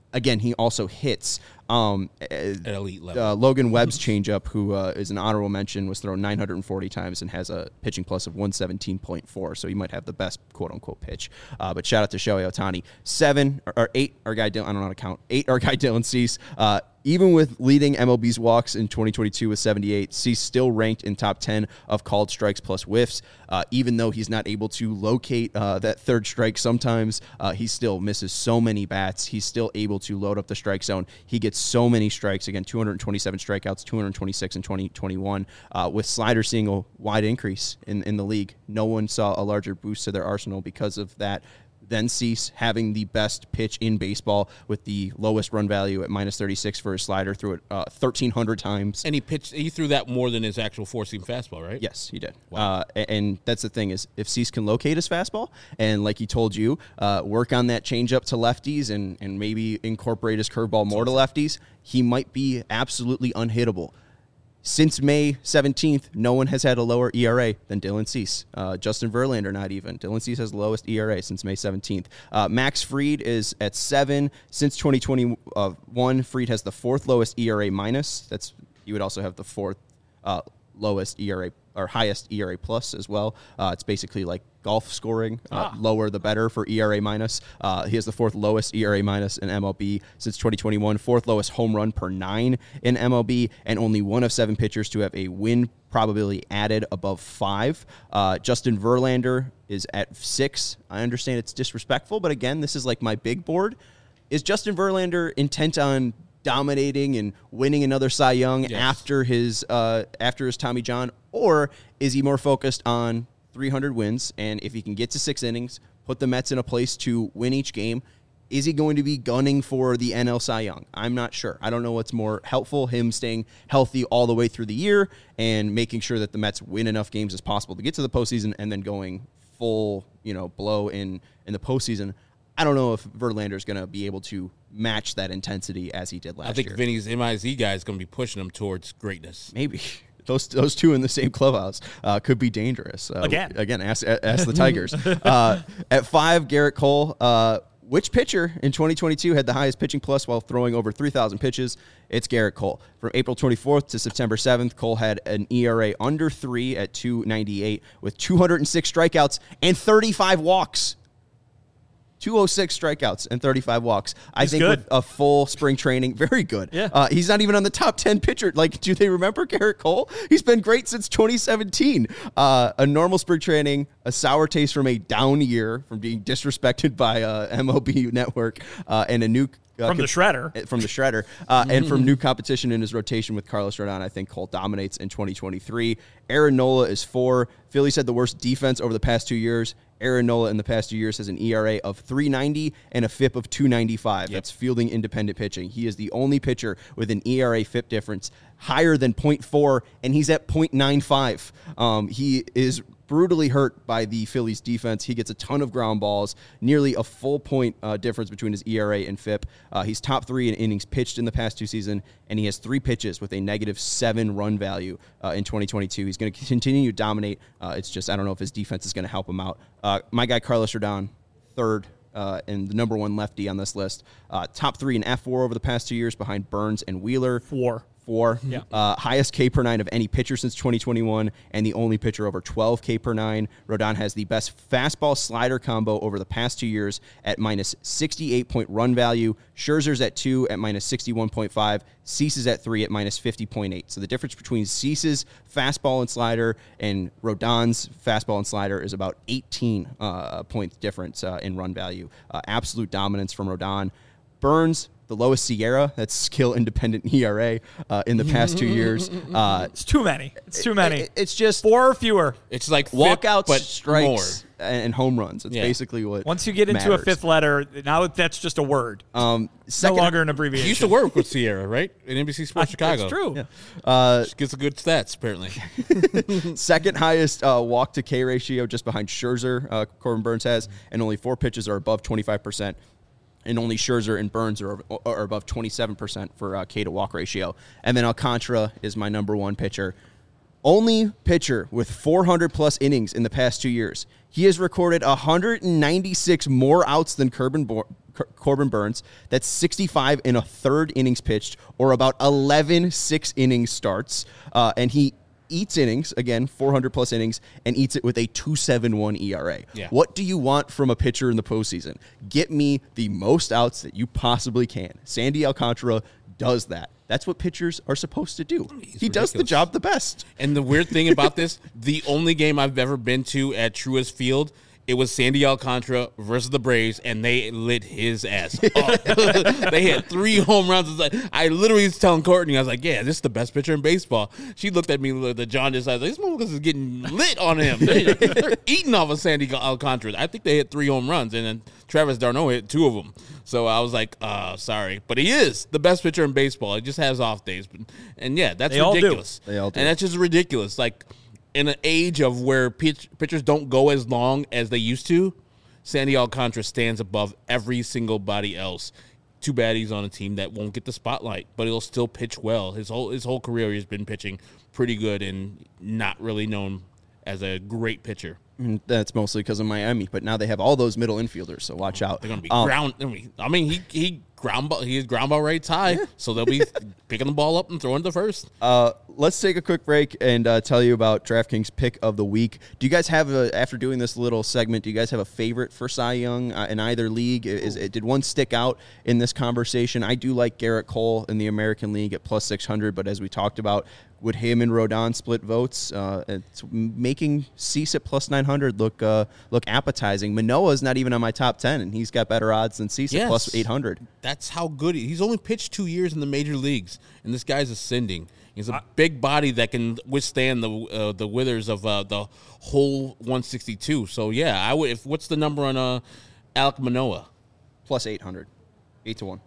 again, he also hits. Um, At elite level. Uh, Logan Webb's changeup, who uh, is an honorable mention, was thrown nine hundred forty times and has a pitching plus of one seventeen point four. So he might have the best quote unquote pitch. Uh, but shout out to Shohei Ohtani. Seven or, or eight, our guy Dylan, I don't know how to count. Eight, our guy Dylan Cease. Uh, even with leading M L B's walks in twenty twenty-two with seventy-eight, Cease still ranked in top ten of called strikes plus whiffs. Uh, even though he's not able to locate uh, that third strike sometimes, uh, he still misses so many bats. He's still able to load up the strike zone. He gets so many strikes. Again, two hundred twenty-seven strikeouts, two hundred twenty-six in twenty twenty-one. Uh, with Slider seeing a wide increase in, in the league, no one saw a larger boost to their arsenal because of that. Then Cease having the best pitch in baseball with the lowest run value at minus thirty-six for his slider, threw it uh, thirteen hundred times. And he pitched. He threw that more than his actual four-seam fastball, right? Yes, he did. Wow. Uh, a- and that's the thing is, if Cease can locate his fastball and, like he told you, uh, work on that changeup to lefties and and maybe incorporate his curveball more to lefties, he might be absolutely unhittable. Since May seventeenth, no one has had a lower E R A than Dylan Cease. Uh, Justin Verlander, not even. Dylan Cease has the lowest E R A since May seventeenth. Uh, Max Fried is at seven. Since twenty twenty-one, Fried has the fourth lowest E R A minus. That's you would also have the fourth uh, lowest E R A or highest E R A plus as well. Uh, it's basically like golf scoring. Uh, Ah. Lower the better for E R A minus. Uh, he has the fourth lowest E R A minus in M L B since twenty twenty-one, fourth lowest home run per nine in M L B, and only one of seven pitchers to have a win probability added above five. Uh, Justin Verlander is at six. I understand it's disrespectful, but again, this is like my big board. Is Justin Verlander intent on dominating and winning another Cy Young Yes. after his uh, after his Tommy John, or is he more focused on three hundred wins, and if he can get to six innings, put the Mets in a place to win each game, is he going to be gunning for the N L Cy Young? I'm not sure. I don't know what's more helpful, him staying healthy all the way through the year and making sure that the Mets win enough games as possible to get to the postseason, and then going full, you know, blow in in the postseason. I don't know if Verlander is going to be able to match that intensity as he did last I think year. Vinny's M I Z guy is going to be pushing him towards greatness. Maybe. Those those two in the same clubhouse uh, could be dangerous. Uh, Again. Again, ask, ask the Tigers. uh, at five, Garrett Cole. Uh, which pitcher in twenty twenty-two had the highest pitching plus while throwing over three thousand pitches? It's Garrett Cole. From April twenty-fourth to September seventh, Cole had an E R A under three at two ninety-eight with two hundred six strikeouts and thirty-five walks. two oh six strikeouts and thirty-five walks. I He's think good. with a full spring training, very good. Yeah. Uh, he's not even on the top ten pitcher. Like, do they remember Garrett Cole? He's been great since twenty seventeen. Uh, a normal spring training, a sour taste from a down year, from being disrespected by uh, M L B Network, uh, and a new uh, From the shredder. from the shredder, uh, and from new competition in his rotation with Carlos Rodon. I think Cole dominates in twenty twenty-three. Aaron Nola is four. Phillies had the worst defense over the past two years. Aaron Nola in the past two years has an E R A of three ninety and a F I P of two ninety-five. That's fielding independent pitching. He is the only pitcher with an E R A F I P difference higher than point four, and he's at point nine five. Um, he is brutally hurt by the Phillies defense. He gets a ton of ground balls, nearly a full point uh, difference between his E R A and F I P. Uh, he's top three in innings pitched in the past two seasons, and he has three pitches with a negative seven run value uh, in twenty twenty-two. He's going to continue to dominate. Uh, it's just, I don't know if his defense is going to help him out. Uh, my guy, Carlos Rodon, third. Uh, and the number one lefty on this list. Uh, top three in F W A R over the past two years behind Burns and Wheeler. Four. Four. Yeah. Uh, highest K per nine of any pitcher since twenty twenty-one, and the only pitcher over twelve K per nine. Rodon has the best fastball slider combo over the past two years at minus sixty-eight point run value. Scherzer's at two at minus sixty-one point five. Cease is at three at minus fifty point eight. So the difference between Cease's fastball and slider and Rodon's fastball and slider is about eighteen uh, point difference uh, in run value. Uh, absolute dominance from Rodon. Burns, the lowest Sierra, that's skill independent E R A uh, in the past two years. Uh, It's too many. It's too many. it- it's just Four or fewer. It's like F I P, walkouts, but strikes, more. and home runs. It's Yeah. basically what Once you get into matters. a fifth letter, now that's just a word. Um, no second, longer an He abbreviation. used to work with Sierra, right? In N B C Sports Chicago. That's true. uh, Gets a good stats, apparently. second highest uh, walk to K ratio, just behind Scherzer, uh, Corbin Burns has, and only four pitches are above twenty-five percent. And only Scherzer and Burns are, are above twenty-seven percent for uh, K to walk ratio. And then Alcantara is my number one pitcher. Only pitcher with four hundred plus innings in the past two years. He has recorded one hundred ninety-six more outs than Corbin, Bo- Cor- Corbin Burns. That's sixty-five in a third innings pitched, or about eleven six innings starts. Uh, and he eats innings, again, four hundred plus innings, and eats it with a two point seven one E R A. Yeah. What do you want from a pitcher in the postseason? Get me the most outs that you possibly can. Sandy Alcantara does that. That's what pitchers are supposed to do. He's he does the ridiculous. job the best. And the weird thing about this, the only game I've ever been to at Truist Field, it was Sandy Alcantara versus the Braves, and they lit his ass up. They had three home runs. It's like, I literally was telling Courtney, I was like, yeah, this is the best pitcher in baseball. She looked at me with the jaundice. I was like, this motherfucker is getting lit on him. They, they're eating off of Sandy Alcantara. I think they hit three home runs, and then Travis d'Arnaud hit two of them. So I was like, uh, sorry. But he is the best pitcher in baseball. He just has off days. And, yeah, that's They all do. ridiculous. They all do. And that's just ridiculous. Like, in an age of where pitch, pitchers don't go as long as they used to, Sandy Alcantara stands above every single body else. Too bad he's on a team that won't get the spotlight, but he'll still pitch well. His whole his whole career, he's been pitching pretty good and not really known as a great pitcher. And that's mostly because of Miami, but now they have all those middle infielders, so watch out. They're gonna be Um, ground. I mean, I mean, he he ground ball. He is ground ball rates high, so they'll be picking the ball up and throwing it to first. Uh, let's take a quick break and uh, tell you about DraftKings pick of the week. Do you guys have a, after doing this little segment, do you guys have a favorite for Cy Young uh, in either league? Is it, did one stick out in this conversation? I do like Garrett Cole in the American League at plus six hundred, but as we talked about, would him and Rodon split votes? Uh, it's making Cease at plus nine hundred look uh, look appetizing. Manoa's not even on my top ten, and he's got better odds than Cease Yes. at plus eight hundred. That's how good he, he's only pitched two years in the major leagues, and this guy's ascending. He's a big body that can withstand the uh, the withers of uh, the whole one sixty-two. So yeah, I would. If what's the number on uh, Alek Manoah? Plus eight hundred. eight to one.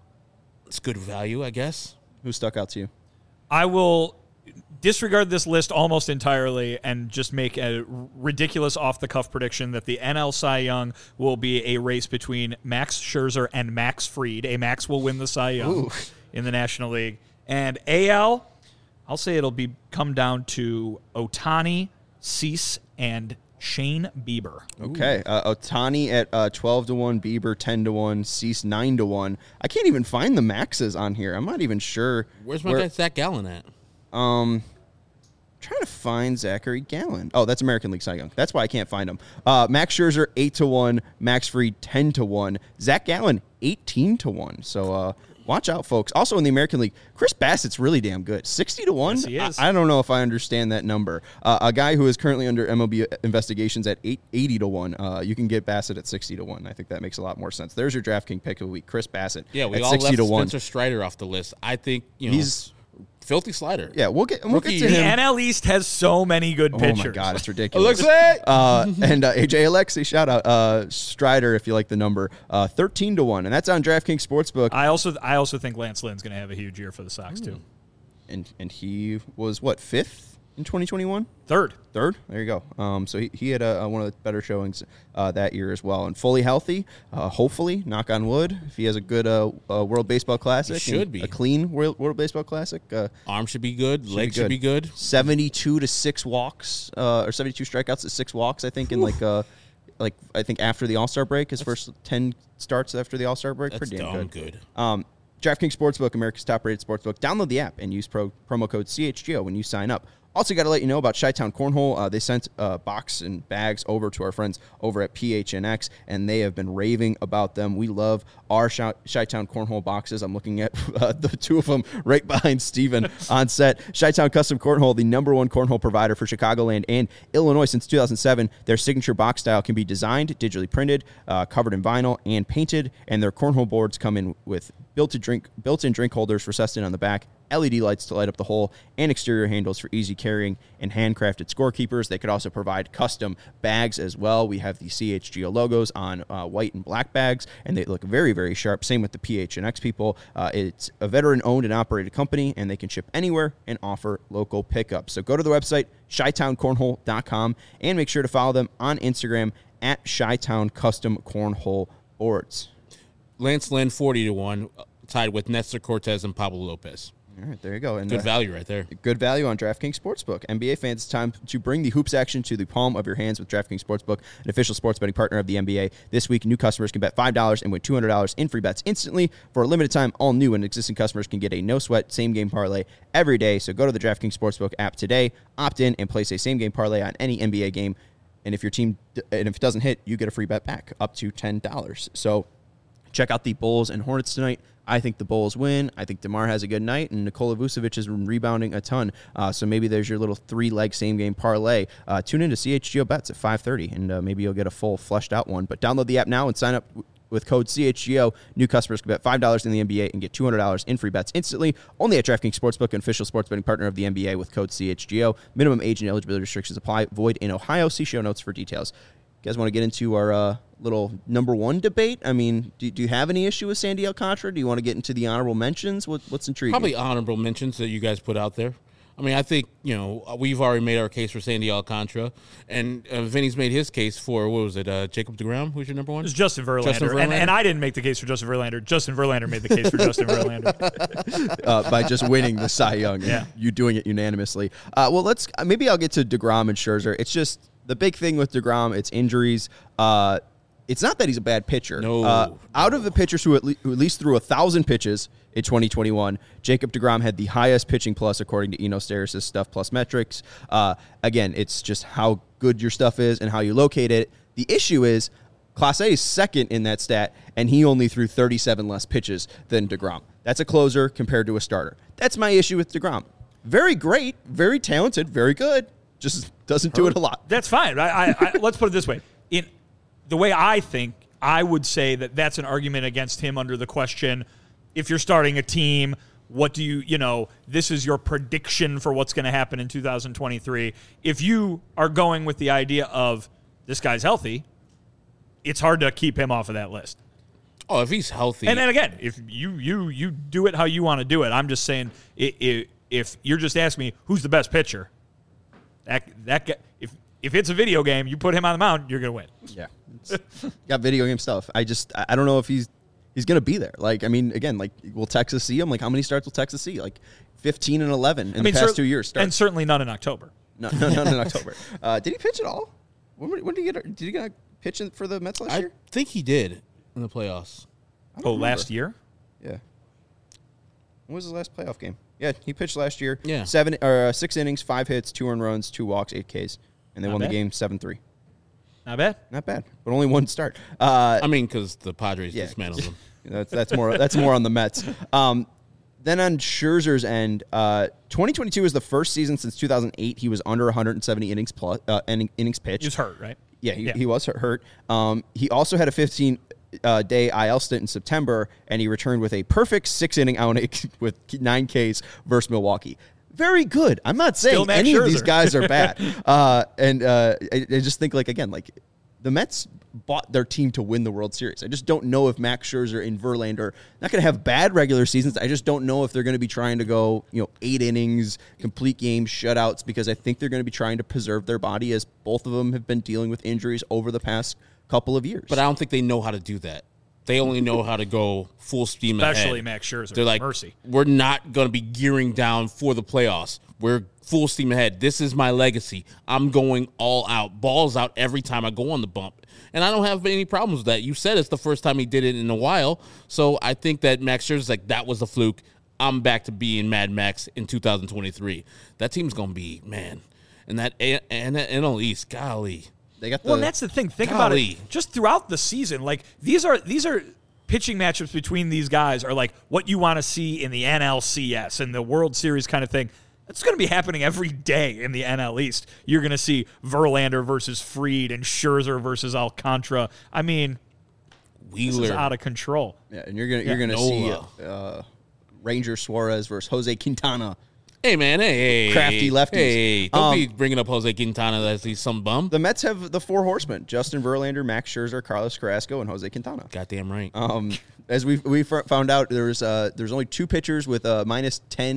It's good value, I guess. Who stuck out to you? I will disregard this list almost entirely and just make a ridiculous off-the-cuff prediction that the N L Cy Young will be a race between Max Scherzer and Max Fried. A Max will win the Cy Young Ooh. in the National League. And A L, I'll say it'll be come down to Ohtani, Cease, and Shane Bieber. Okay, uh, Otani at uh, twelve to one, Bieber ten to one, Cease nine to one. I can't even find the maxes on here. I'm not even sure. Where's my where, guy Zach Gallen at? Um, trying to find Zachary Gallen. Oh, that's American League Cy Young. That's why I can't find him. Uh, Max Scherzer eight to one, Max Fried ten to one, Zach Gallen eighteen to one. So uh, watch out, folks. Also in the American League, Chris Bassett's really damn good. sixty to one? Yes, he is. I, I don't know if I understand that number. Uh, a guy who is currently under M L B investigations at eight, eighty to one. Uh, you can get Bassett at sixty to one. I think that makes a lot more sense. There's your DraftKings pick of the week, Chris Bassett. Yeah, we at all sixty left to one. Spencer Strider off the list. I think you know He's filthy slider. yeah. We'll get we'll Rookie get to The him. N L East has so many good Oh pitchers. my God, it's ridiculous. Alexei! Uh, and uh, A J Alexi, shout out. Uh, Strider, if you like the number, uh, thirteen to one, and that's on DraftKings Sportsbook. I also I also think Lance Lynn's going to have a huge year for the Sox, too. And and he was what, fifth in twenty twenty-one? Third. Third. There you go. Um, so he, he had a, a, one of the better showings uh, that year as well, and fully healthy. Uh, hopefully, knock on wood, if he has a good uh, uh, World Baseball Classic, He should and be. a clean World, World Baseball Classic. Uh, Arm should be good. should Leg be should be good. Seventy-two to six walks, uh, or seventy-two strikeouts to six walks. I think in like uh, like I think after the All Star break, his first ten starts after the All Star break. That's Pretty damn darn good. good. Um, DraftKings Sportsbook, America's top-rated sportsbook. Download the app and use pro, promo code C H G O when you sign up. Also, got to let you know about Chi-Town Cornhole. Uh, they sent a box and bags over to our friends over at P H N X, and they have been raving about them. We love our Chi- Chi-Town Cornhole boxes. I'm looking at uh, the two of them right behind Steven on set. Chi-Town Custom Cornhole, the number one cornhole provider for Chicagoland and Illinois since two thousand seven. Their signature box style can be designed, digitally printed, uh, covered in vinyl, and painted, and their cornhole boards come in with built-in drink, built-in drink holders recessed in on the back, L E D lights to light up the hole, and exterior handles for easy carrying and handcrafted scorekeepers. They could also provide custom bags as well. We have the C H G O logos on uh, white and black bags, and they look very, very sharp. Same with the P H N X people. Uh, it's a veteran-owned and operated company, and they can ship anywhere and offer local pickups. So go to the website, chi town cornhole dot com, and make sure to follow them on Instagram at Chi-Town Custom Cornhole Boards. Lance Lynn forty to one, tied with Nestor Cortez and Pablo Lopez. All right, there you go. And Good uh, value right there. Good value on DraftKings Sportsbook. N B A fans, it's time to bring the hoops action to the palm of your hands with DraftKings Sportsbook, an official sports betting partner of the N B A. This week, new customers can bet five dollars and win two hundred dollars in free bets instantly. For a limited time, all new and existing customers can get a no-sweat same-game parlay every day. So go to the DraftKings Sportsbook app today, opt in, and place a same-game parlay on any N B A game. And if your team, and if it doesn't hit, you get a free bet back up to ten dollars. So check out the Bulls and Hornets tonight. I think the Bulls win. I think DeMar has a good night, and Nikola Vucevic is rebounding a ton. Uh, so maybe there's your little three-leg same-game parlay. Uh, tune in to C H G O Bets at five thirty, and uh, maybe you'll get a full, fleshed-out one. But download the app now and sign up w- with code C H G O. New customers can bet five dollars in the N B A and get two hundred dollars in free bets instantly. Only at DraftKings Sportsbook, an official sports betting partner of the N B A with code C H G O. Minimum age and eligibility restrictions apply. Void in Ohio. See show notes for details. You guys want to get into our uh, little number one debate? I mean, do, do you have any issue with Sandy Alcantara? Do you want to get into the honorable mentions? What, what's intriguing? Probably honorable mentions that you guys put out there. I mean, I think, you know, we've already made our case for Sandy Alcantara, and uh, Vinny's made his case for, what was it, uh, Jacob deGrom? Who's your number one? It's Justin Verlander. Justin Verlander? And, and I didn't make the case for Justin Verlander. Justin Verlander made the case for Justin Verlander. uh, by just winning the Cy Young and Yeah. you doing it unanimously. Uh, well, let's maybe I'll get to DeGrom and Scherzer. It's just the big thing with DeGrom, it's injuries. Uh, it's not that he's a bad pitcher. No. Uh, out of the pitchers who at, le- who at least threw one thousand pitches in twenty twenty-one, Jacob DeGrom had the highest pitching plus according to Eno Steris' Stuff Plus metrics. Uh, again, it's just how good your stuff is and how you locate it. The issue is Class A is second in that stat, and he only threw thirty-seven less pitches than DeGrom. That's a closer compared to a starter. That's my issue with DeGrom. Very great, very talented, very good. Just doesn't do it a lot. That's fine. I, I, I, let's put it this way. In the way I think, I would say that that's an argument against him under the question, if you're starting a team, what do you, you know, this is your prediction for what's going to happen in two thousand twenty-three. If you are going with the idea of this guy's healthy, it's hard to keep him off of that list. Oh, if he's healthy. And then again, if you you you do it how you want to do it, I'm just saying, if, if you're just asking me who's the best pitcher, that that guy, if if it's a video game, you put him on the mound, you're gonna win. Yeah. It's got video game stuff. I just, I I don't know if he's he's going to be there. Like, I mean, again, like, will Texas see him? Like, how many starts will Texas see? Like, fifteen and eleven in I mean, the past cer- two years. Starts. and certainly none in October. No, no, none in October. Uh, did he pitch at all? When, when did he get? Did he get a pitch in for the Mets last I year? think he did in the playoffs. I don't Oh, remember. last year? Yeah. When was his last playoff game? Yeah, he pitched last year. Yeah. Seven or uh, six innings, five hits, two earned runs, two walks, eight Ks, and they Not won bad. the game seven three. Not bad. Not bad, but only one start. Uh, I mean, because the Padres Yeah. dismantled him. That's that's more that's more on the Mets. Um, then on Scherzer's end, uh, twenty twenty-two was the first season since two thousand eight he was under one hundred seventy innings plus uh, inning, innings pitched. He was hurt, right? Yeah, he, Yeah. he was hurt. Um, he also had a fifteen uh, day I L stint in September, and he returned with a perfect six inning outing with nine Ks versus Milwaukee. Very good. I'm not saying Still Max any of these Scherzer. guys are bad. uh, and uh, I, I just think, like, again, like, the Mets bought their team to win the World Series. I just don't know if Max Scherzer and Verlander not going to have bad regular seasons. I just don't know if they're going to be trying to go, you know, eight innings, complete games, shutouts, because I think they're going to be trying to preserve their body, as both of them have been dealing with injuries over the past couple of years. But I don't think they know how to do that. They only know how to go full steam ahead. Especially Max Scherzer. They're like, mercy. we're not going to be gearing down for the playoffs. We're full steam ahead. This is my legacy. I'm going all out. Balls out every time I go on the bump. And I don't have any problems with that. You said it's the first time he did it in a while. So I think that Max Scherzer's like, that was a fluke. I'm back to being Mad Max in two thousand twenty-three. That team's going to be, man. And that and that N L East, golly. they got the Well, and that's the thing. Think Golly. about it. Just throughout the season, like these are these are pitching matchups between these guys are like what you want to see in the N L C S and the World Series kind of thing. That's going to be happening every day in the N L East. You're going to see Verlander versus Fried and Scherzer versus Alcantara. I mean, this is Wheeler. out of control. yeah, and you're gonna you're gonna see Nola. uh, Ranger Suarez versus Jose Quintana. Hey, man. Hey, hey. Crafty lefties. Hey, don't Um, be bringing up Jose Quintana as he's some bum. The Mets have the four horsemen: Justin Verlander, Max Scherzer, Carlos Carrasco, and Jose Quintana. Goddamn right. Um, as we we found out, there's uh, there's only two pitchers with a minus ten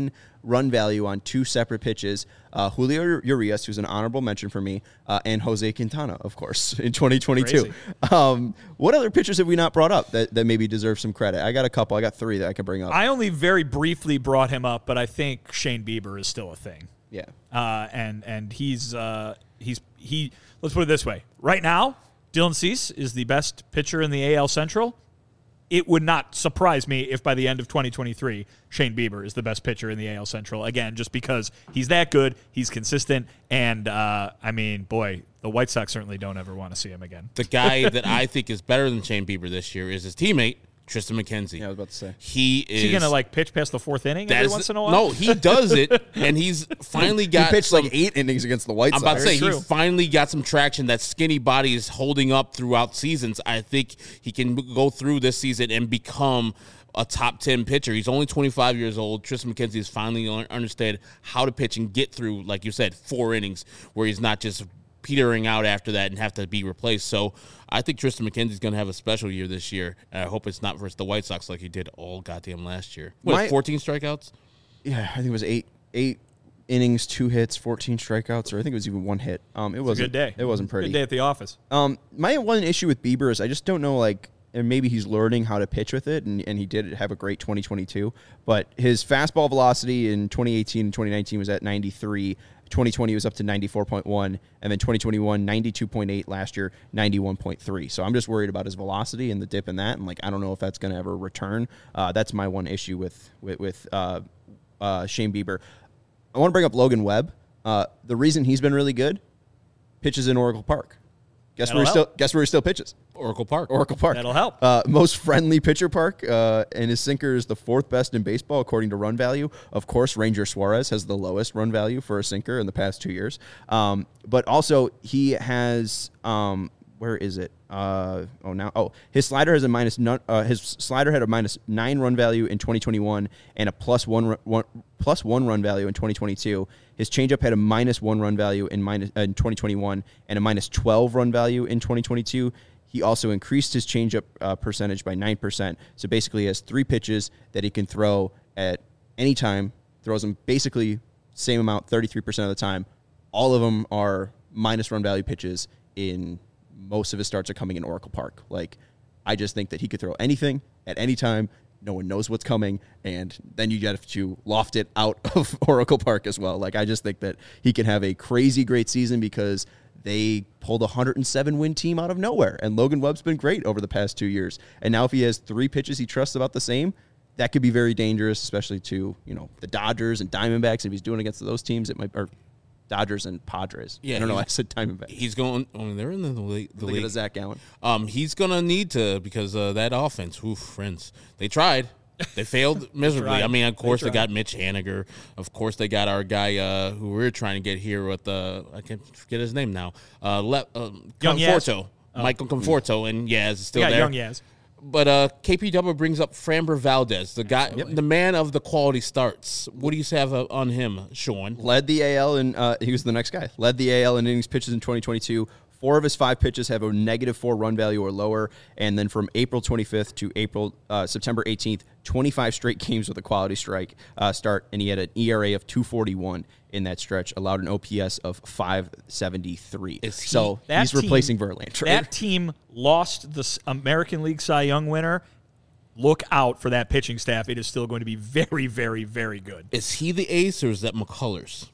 run value on two separate pitches. Uh, Julio Urias, who's an honorable mention for me, uh, and Jose Quintana, of course, in twenty twenty-two. Um, what other pitchers have we not brought up that, that maybe deserve some credit? I got a couple. I got three that I can bring up. I only very briefly brought him up, but I think Shane Bieber is still a thing. Yeah. Uh, and and he's uh, he's he. Let's put it this way: right now, Dylan Cease is the best pitcher in the A L Central. It would not surprise me if by the end of twenty twenty-three, Shane Bieber is the best pitcher in the A L Central. Again, just because he's that good, he's consistent, and, uh, I mean, boy, the White Sox certainly don't ever want to see him again. The guy that I think is better than Shane Bieber this year is his teammate, Tristan McKenzie. Yeah, I was about to say. He is... Is he going to, like, pitch past the fourth inning every is, once in a while? No, he does it, and he's finally got He pitched some, like eight innings against the White I'm Sox. about to say, Very he true. finally got some traction. That skinny body is holding up throughout seasons. I think he can go through this season and become a top ten pitcher. He's only twenty-five years old. Tristan McKenzie has finally un- understood how to pitch and get through, like you said, four innings where he's not just petering out after that and have to be replaced. So I think Tristan McKenzie's going to have a special year this year. And I hope it's not versus the White Sox like he did all goddamn last year. What, My- fourteen strikeouts? Yeah, I think it was eight eight innings, two hits, fourteen strikeouts, or I think it was even one hit. Um, it was a good day. It wasn't pretty. Good day at the office. Um, my one issue with Bieber is I just don't know, like, and maybe he's learning how to pitch with it, and, and he did have a great twenty twenty-two, but his fastball velocity in twenty eighteen and twenty nineteen was at ninety-three. twenty twenty was up to ninety-four point one, and then twenty twenty-one, ninety-two point eight, last year, ninety-one point three. So I'm just worried about his velocity and the dip in that, and, like, I don't know if that's going to ever return. Uh, that's my one issue with, with, with uh, uh, Shane Bieber. I want to bring up Logan Webb. Uh, the reason he's been really good, pitches in Oracle Park. Guess That'll where he still help. guess where he still pitches? Oracle Park. Oracle Park. That'll help. Uh, most friendly pitcher park, uh, and his sinker is the fourth best in baseball according to run value. Of course, Ranger Suarez has the lowest run value for a sinker in the past two years. Um, but also, he has um, where is it? Uh, oh, now oh, his slider has a minus. None, uh, his slider had a minus nine run value in twenty twenty-one and a plus one, ru- one plus one run value in twenty twenty-two. His changeup had a minus one run value in minus uh, in twenty twenty-one and a minus twelve run value in twenty twenty-two. He also increased his changeup uh, percentage by nine percent. So basically, he has three pitches that he can throw at any time. Throws them basically same amount, thirty-three percent of the time. All of them are minus run value pitches. In most of his starts are coming in Oracle Park. Like, I just think that he could throw anything at any time. No one knows what's coming, and then you get to loft it out of Oracle Park as well. Like, I just think that he can have a crazy great season because they pulled a one hundred seven win team out of nowhere, and Logan Webb's been great over the past two years. And now if he has three pitches he trusts about the same, that could be very dangerous, especially to, you know, the Dodgers and Diamondbacks. If he's doing against those teams, it might, or Dodgers and Padres. Yeah, I don't know. I he's- said Diamondbacks. He's going. I mean, they're in the league. The Look at league. Zach Gallen. Um, he's gonna need to because uh, that offense. Oof, friends, they tried. They failed miserably. tried. I mean, of course they, tried. got Mitch Haniger. Of course they got our guy uh, who we are trying to get here with the I can't forget his name now. Uh, Le- um, Young Yaz. Conforto, Michael Conforto, and Yaz is still Yeah, there. young Yaz. But uh, K P W brings up Framber Valdez, the guy, the man of the quality starts. What do you have uh, on him, Sean? Led the A L, and uh, he was the next guy. Led the A L in innings pitches in twenty twenty-two. Four of his five pitches have a negative four run value or lower. And then from April twenty-fifth to April uh, September eighteenth, twenty-five straight games with a quality strike uh, start, and he had an E R A of two forty-one in that stretch, allowed an O P S of five seventy-three. Is he- so That he's team- replacing Verlander. That team lost the S- American League Cy Young winner. Look out for that pitching staff. It is still going to be very, very, very good. Is he the ace or is that McCullers?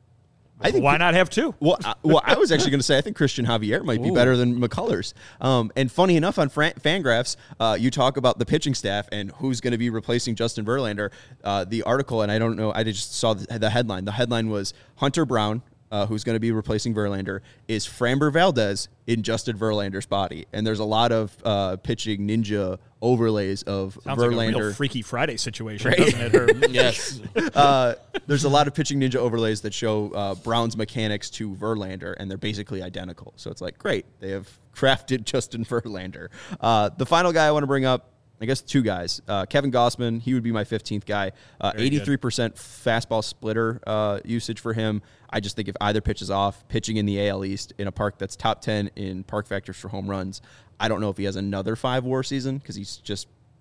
I think Why not have two? Well, I, well, I was actually going to say I think Christian Javier might be Ooh. better than McCullers. Um, and funny enough, on Fran- Fangraphs, uh, you talk about the pitching staff and who's going to be replacing Justin Verlander. Uh, the article, and I don't know, I just saw the, the headline. The headline was Hunter Brown, uh, who's going to be replacing Verlander, is Framber Valdez in Justin Verlander's body. And there's a lot of uh, pitching ninja overlays of Sounds like a Verlander. real Freaky Friday situation, Right? doesn't it? Herb? Yes. uh, there's a lot of pitching ninja overlays that show uh, Brown's mechanics to Verlander, and they're basically identical. So it's like, great, they have crafted Justin Verlander. Uh, the final guy I want to bring up, I guess two guys. Uh, Kevin Gossman, he would be my fifteenth guy. Uh, Very good. eighty-three percent fastball splitter uh, usage for him. I just think if either pitches off, pitching in the A L East in a park that's top ten in park factors for home runs, I don't know if he has another five WAR season because he's just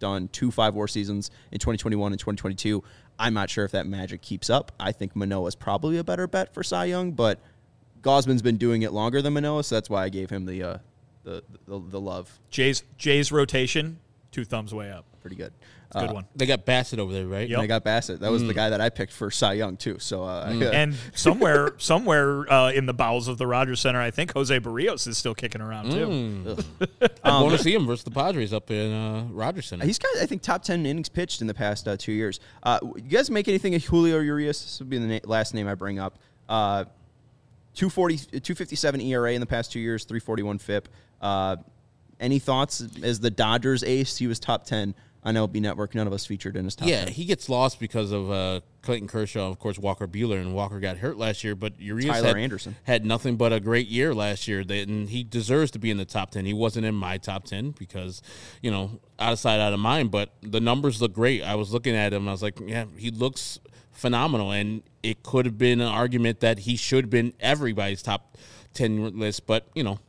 done two five-war seasons in twenty twenty-one and twenty twenty-two. I'm not sure if that magic keeps up. I think Manoah's probably a better bet for Cy Young, but Gausman's been doing it longer than Manoah, so that's why I gave him the uh, the, the the love. Jay's Jay's rotation, two thumbs way up. Pretty good. It's a good Uh, one. They got Bassett over there, right? Yep. And I got Bassett. That was the guy that I picked for Cy Young, too. So, uh, And somewhere somewhere uh, in the bowels of the Rogers Center, I think Jose Barrios is still kicking around, too. I'm going to see him versus the Padres up in uh, Rogers Center. he's got, I think, top ten innings pitched in the past uh, two years. Uh, you guys make anything of Julio Urias? This would be the na- last name I bring up. Uh, two forty, two fifty-seven E R A in the past two years, three forty-one F I P. Uh, any thoughts? As the Dodgers ace, he was top ten on L B Network. None of us featured in his top Yeah, ten. he gets lost because of uh, Clayton Kershaw, of course, Walker Buehler, and Walker got hurt last year. But Urias Tyler had, Anderson. had nothing but a great year last year, that, and he deserves to be in the top ten. He wasn't in my top ten because, you know, out of sight, out of mind. But the numbers look great. I was looking at him, and I was like, yeah, he looks phenomenal, and it could have been an argument that he should have been everybody's top ten list. But you know,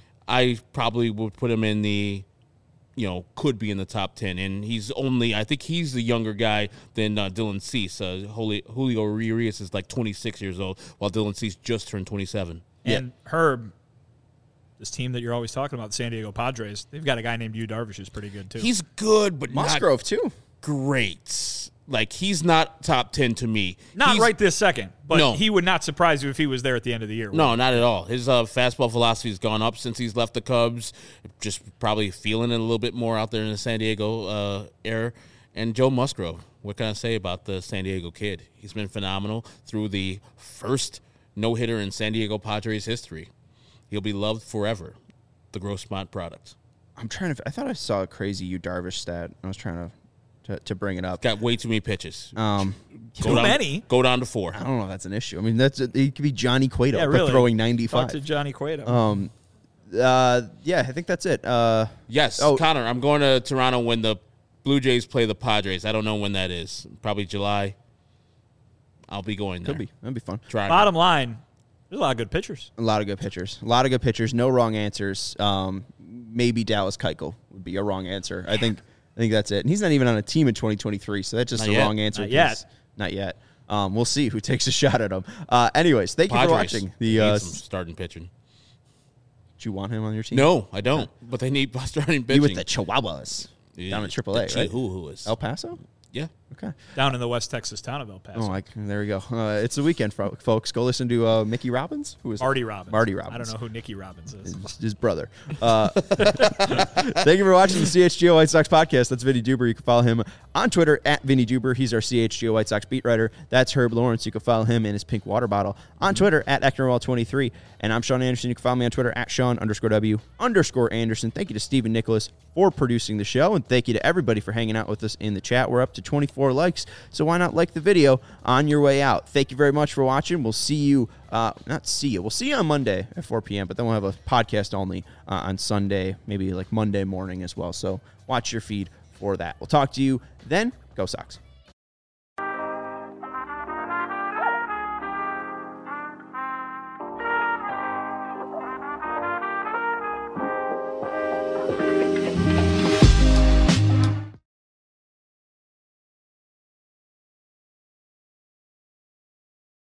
I probably would put him in the, you know, could be in the top ten. And he's only, I think he's the younger guy than uh, Dylan Cease. Uh, Julio, Julio Urias is like twenty-six years old, while Dylan Cease just turned twenty-seven. And Herb, this team that you're always talking about, the San Diego Padres, they've got a guy named Yu Darvish who's pretty good, too. He's good, but Musgrove, not too. great. Like, he's not top ten to me. Not He's- right this second, but No. he would not surprise you if he was there at the end of the year. No, not at all. His uh, fastball velocity has gone up since he's left the Cubs. Just probably feeling it a little bit more out there in the San Diego uh, air. And Joe Musgrove, what can I say about the San Diego kid? He's been phenomenal through the first no-hitter in San Diego Padres history. He'll be loved forever. The Grossmont product. I'm trying to. I thought I saw a crazy Yu Darvish stat. I was trying to to, to bring it up. Got way too many pitches. Um, Go Too down- many? Go down to four. I don't know if that's an issue. I mean, that's he could be Johnny Cueto Yeah, but really. throwing Talk ninety-five. to Johnny Cueto. Um, uh, yeah, I think that's it. Uh, Yes, Oh. Connor, I'm going to Toronto when the Blue Jays play the Padres. I don't know when that is. Probably July. I'll be going there. could be. That'd be fun. Try Bottom line, there's a lot of good pitchers. A lot of good pitchers. A lot of good pitchers. No wrong answers. Um, maybe Dallas Keuchel would be a wrong answer. I think. I think that's it. And he's not even on a team in twenty twenty-three, so that's just Not a yet. wrong answer. Not yet. 'cause- Not yet. Um, we'll see who takes a shot at him. Uh, anyways, thank you Padres for watching. The need uh, some starting pitching. do you want him on your team? No, I don't. But they need starting Be pitching. with the Chihuahuas down at triple A, The right? Chihuahuas. El Paso. Yeah. Okay. Down in the West Texas town of El Paso. Oh, I, there we go. Uh, it's the weekend, fo- folks. Go listen to uh, Mickey Robbins, who is Marty Robbins. Marty I Robbins. don't know who Nicky Robbins is. His, his brother. Uh, thank you for watching the C H G O White Sox podcast. That's Vinny Duber. You can follow him on Twitter at Vinny Duber. He's our C H G O White Sox beat writer. That's Herb Lawrence. You can follow him and his pink water bottle on Twitter at Ecknerwall twenty-three. And I'm Sean Anderson. You can follow me on Twitter at Sean underscore W underscore Anderson. Thank you to Stephen Nicholas for producing the show. And thank you to everybody for hanging out with us in the chat. We're up to twenty-four likes. So why not like the video on your way out? Thank you very much for watching. We'll see you, uh, not see you, we'll see you on Monday at four p.m., but then we'll have a podcast only uh, on Sunday, maybe like Monday morning as well. So watch your feed for that. We'll talk to you then. Go Sox.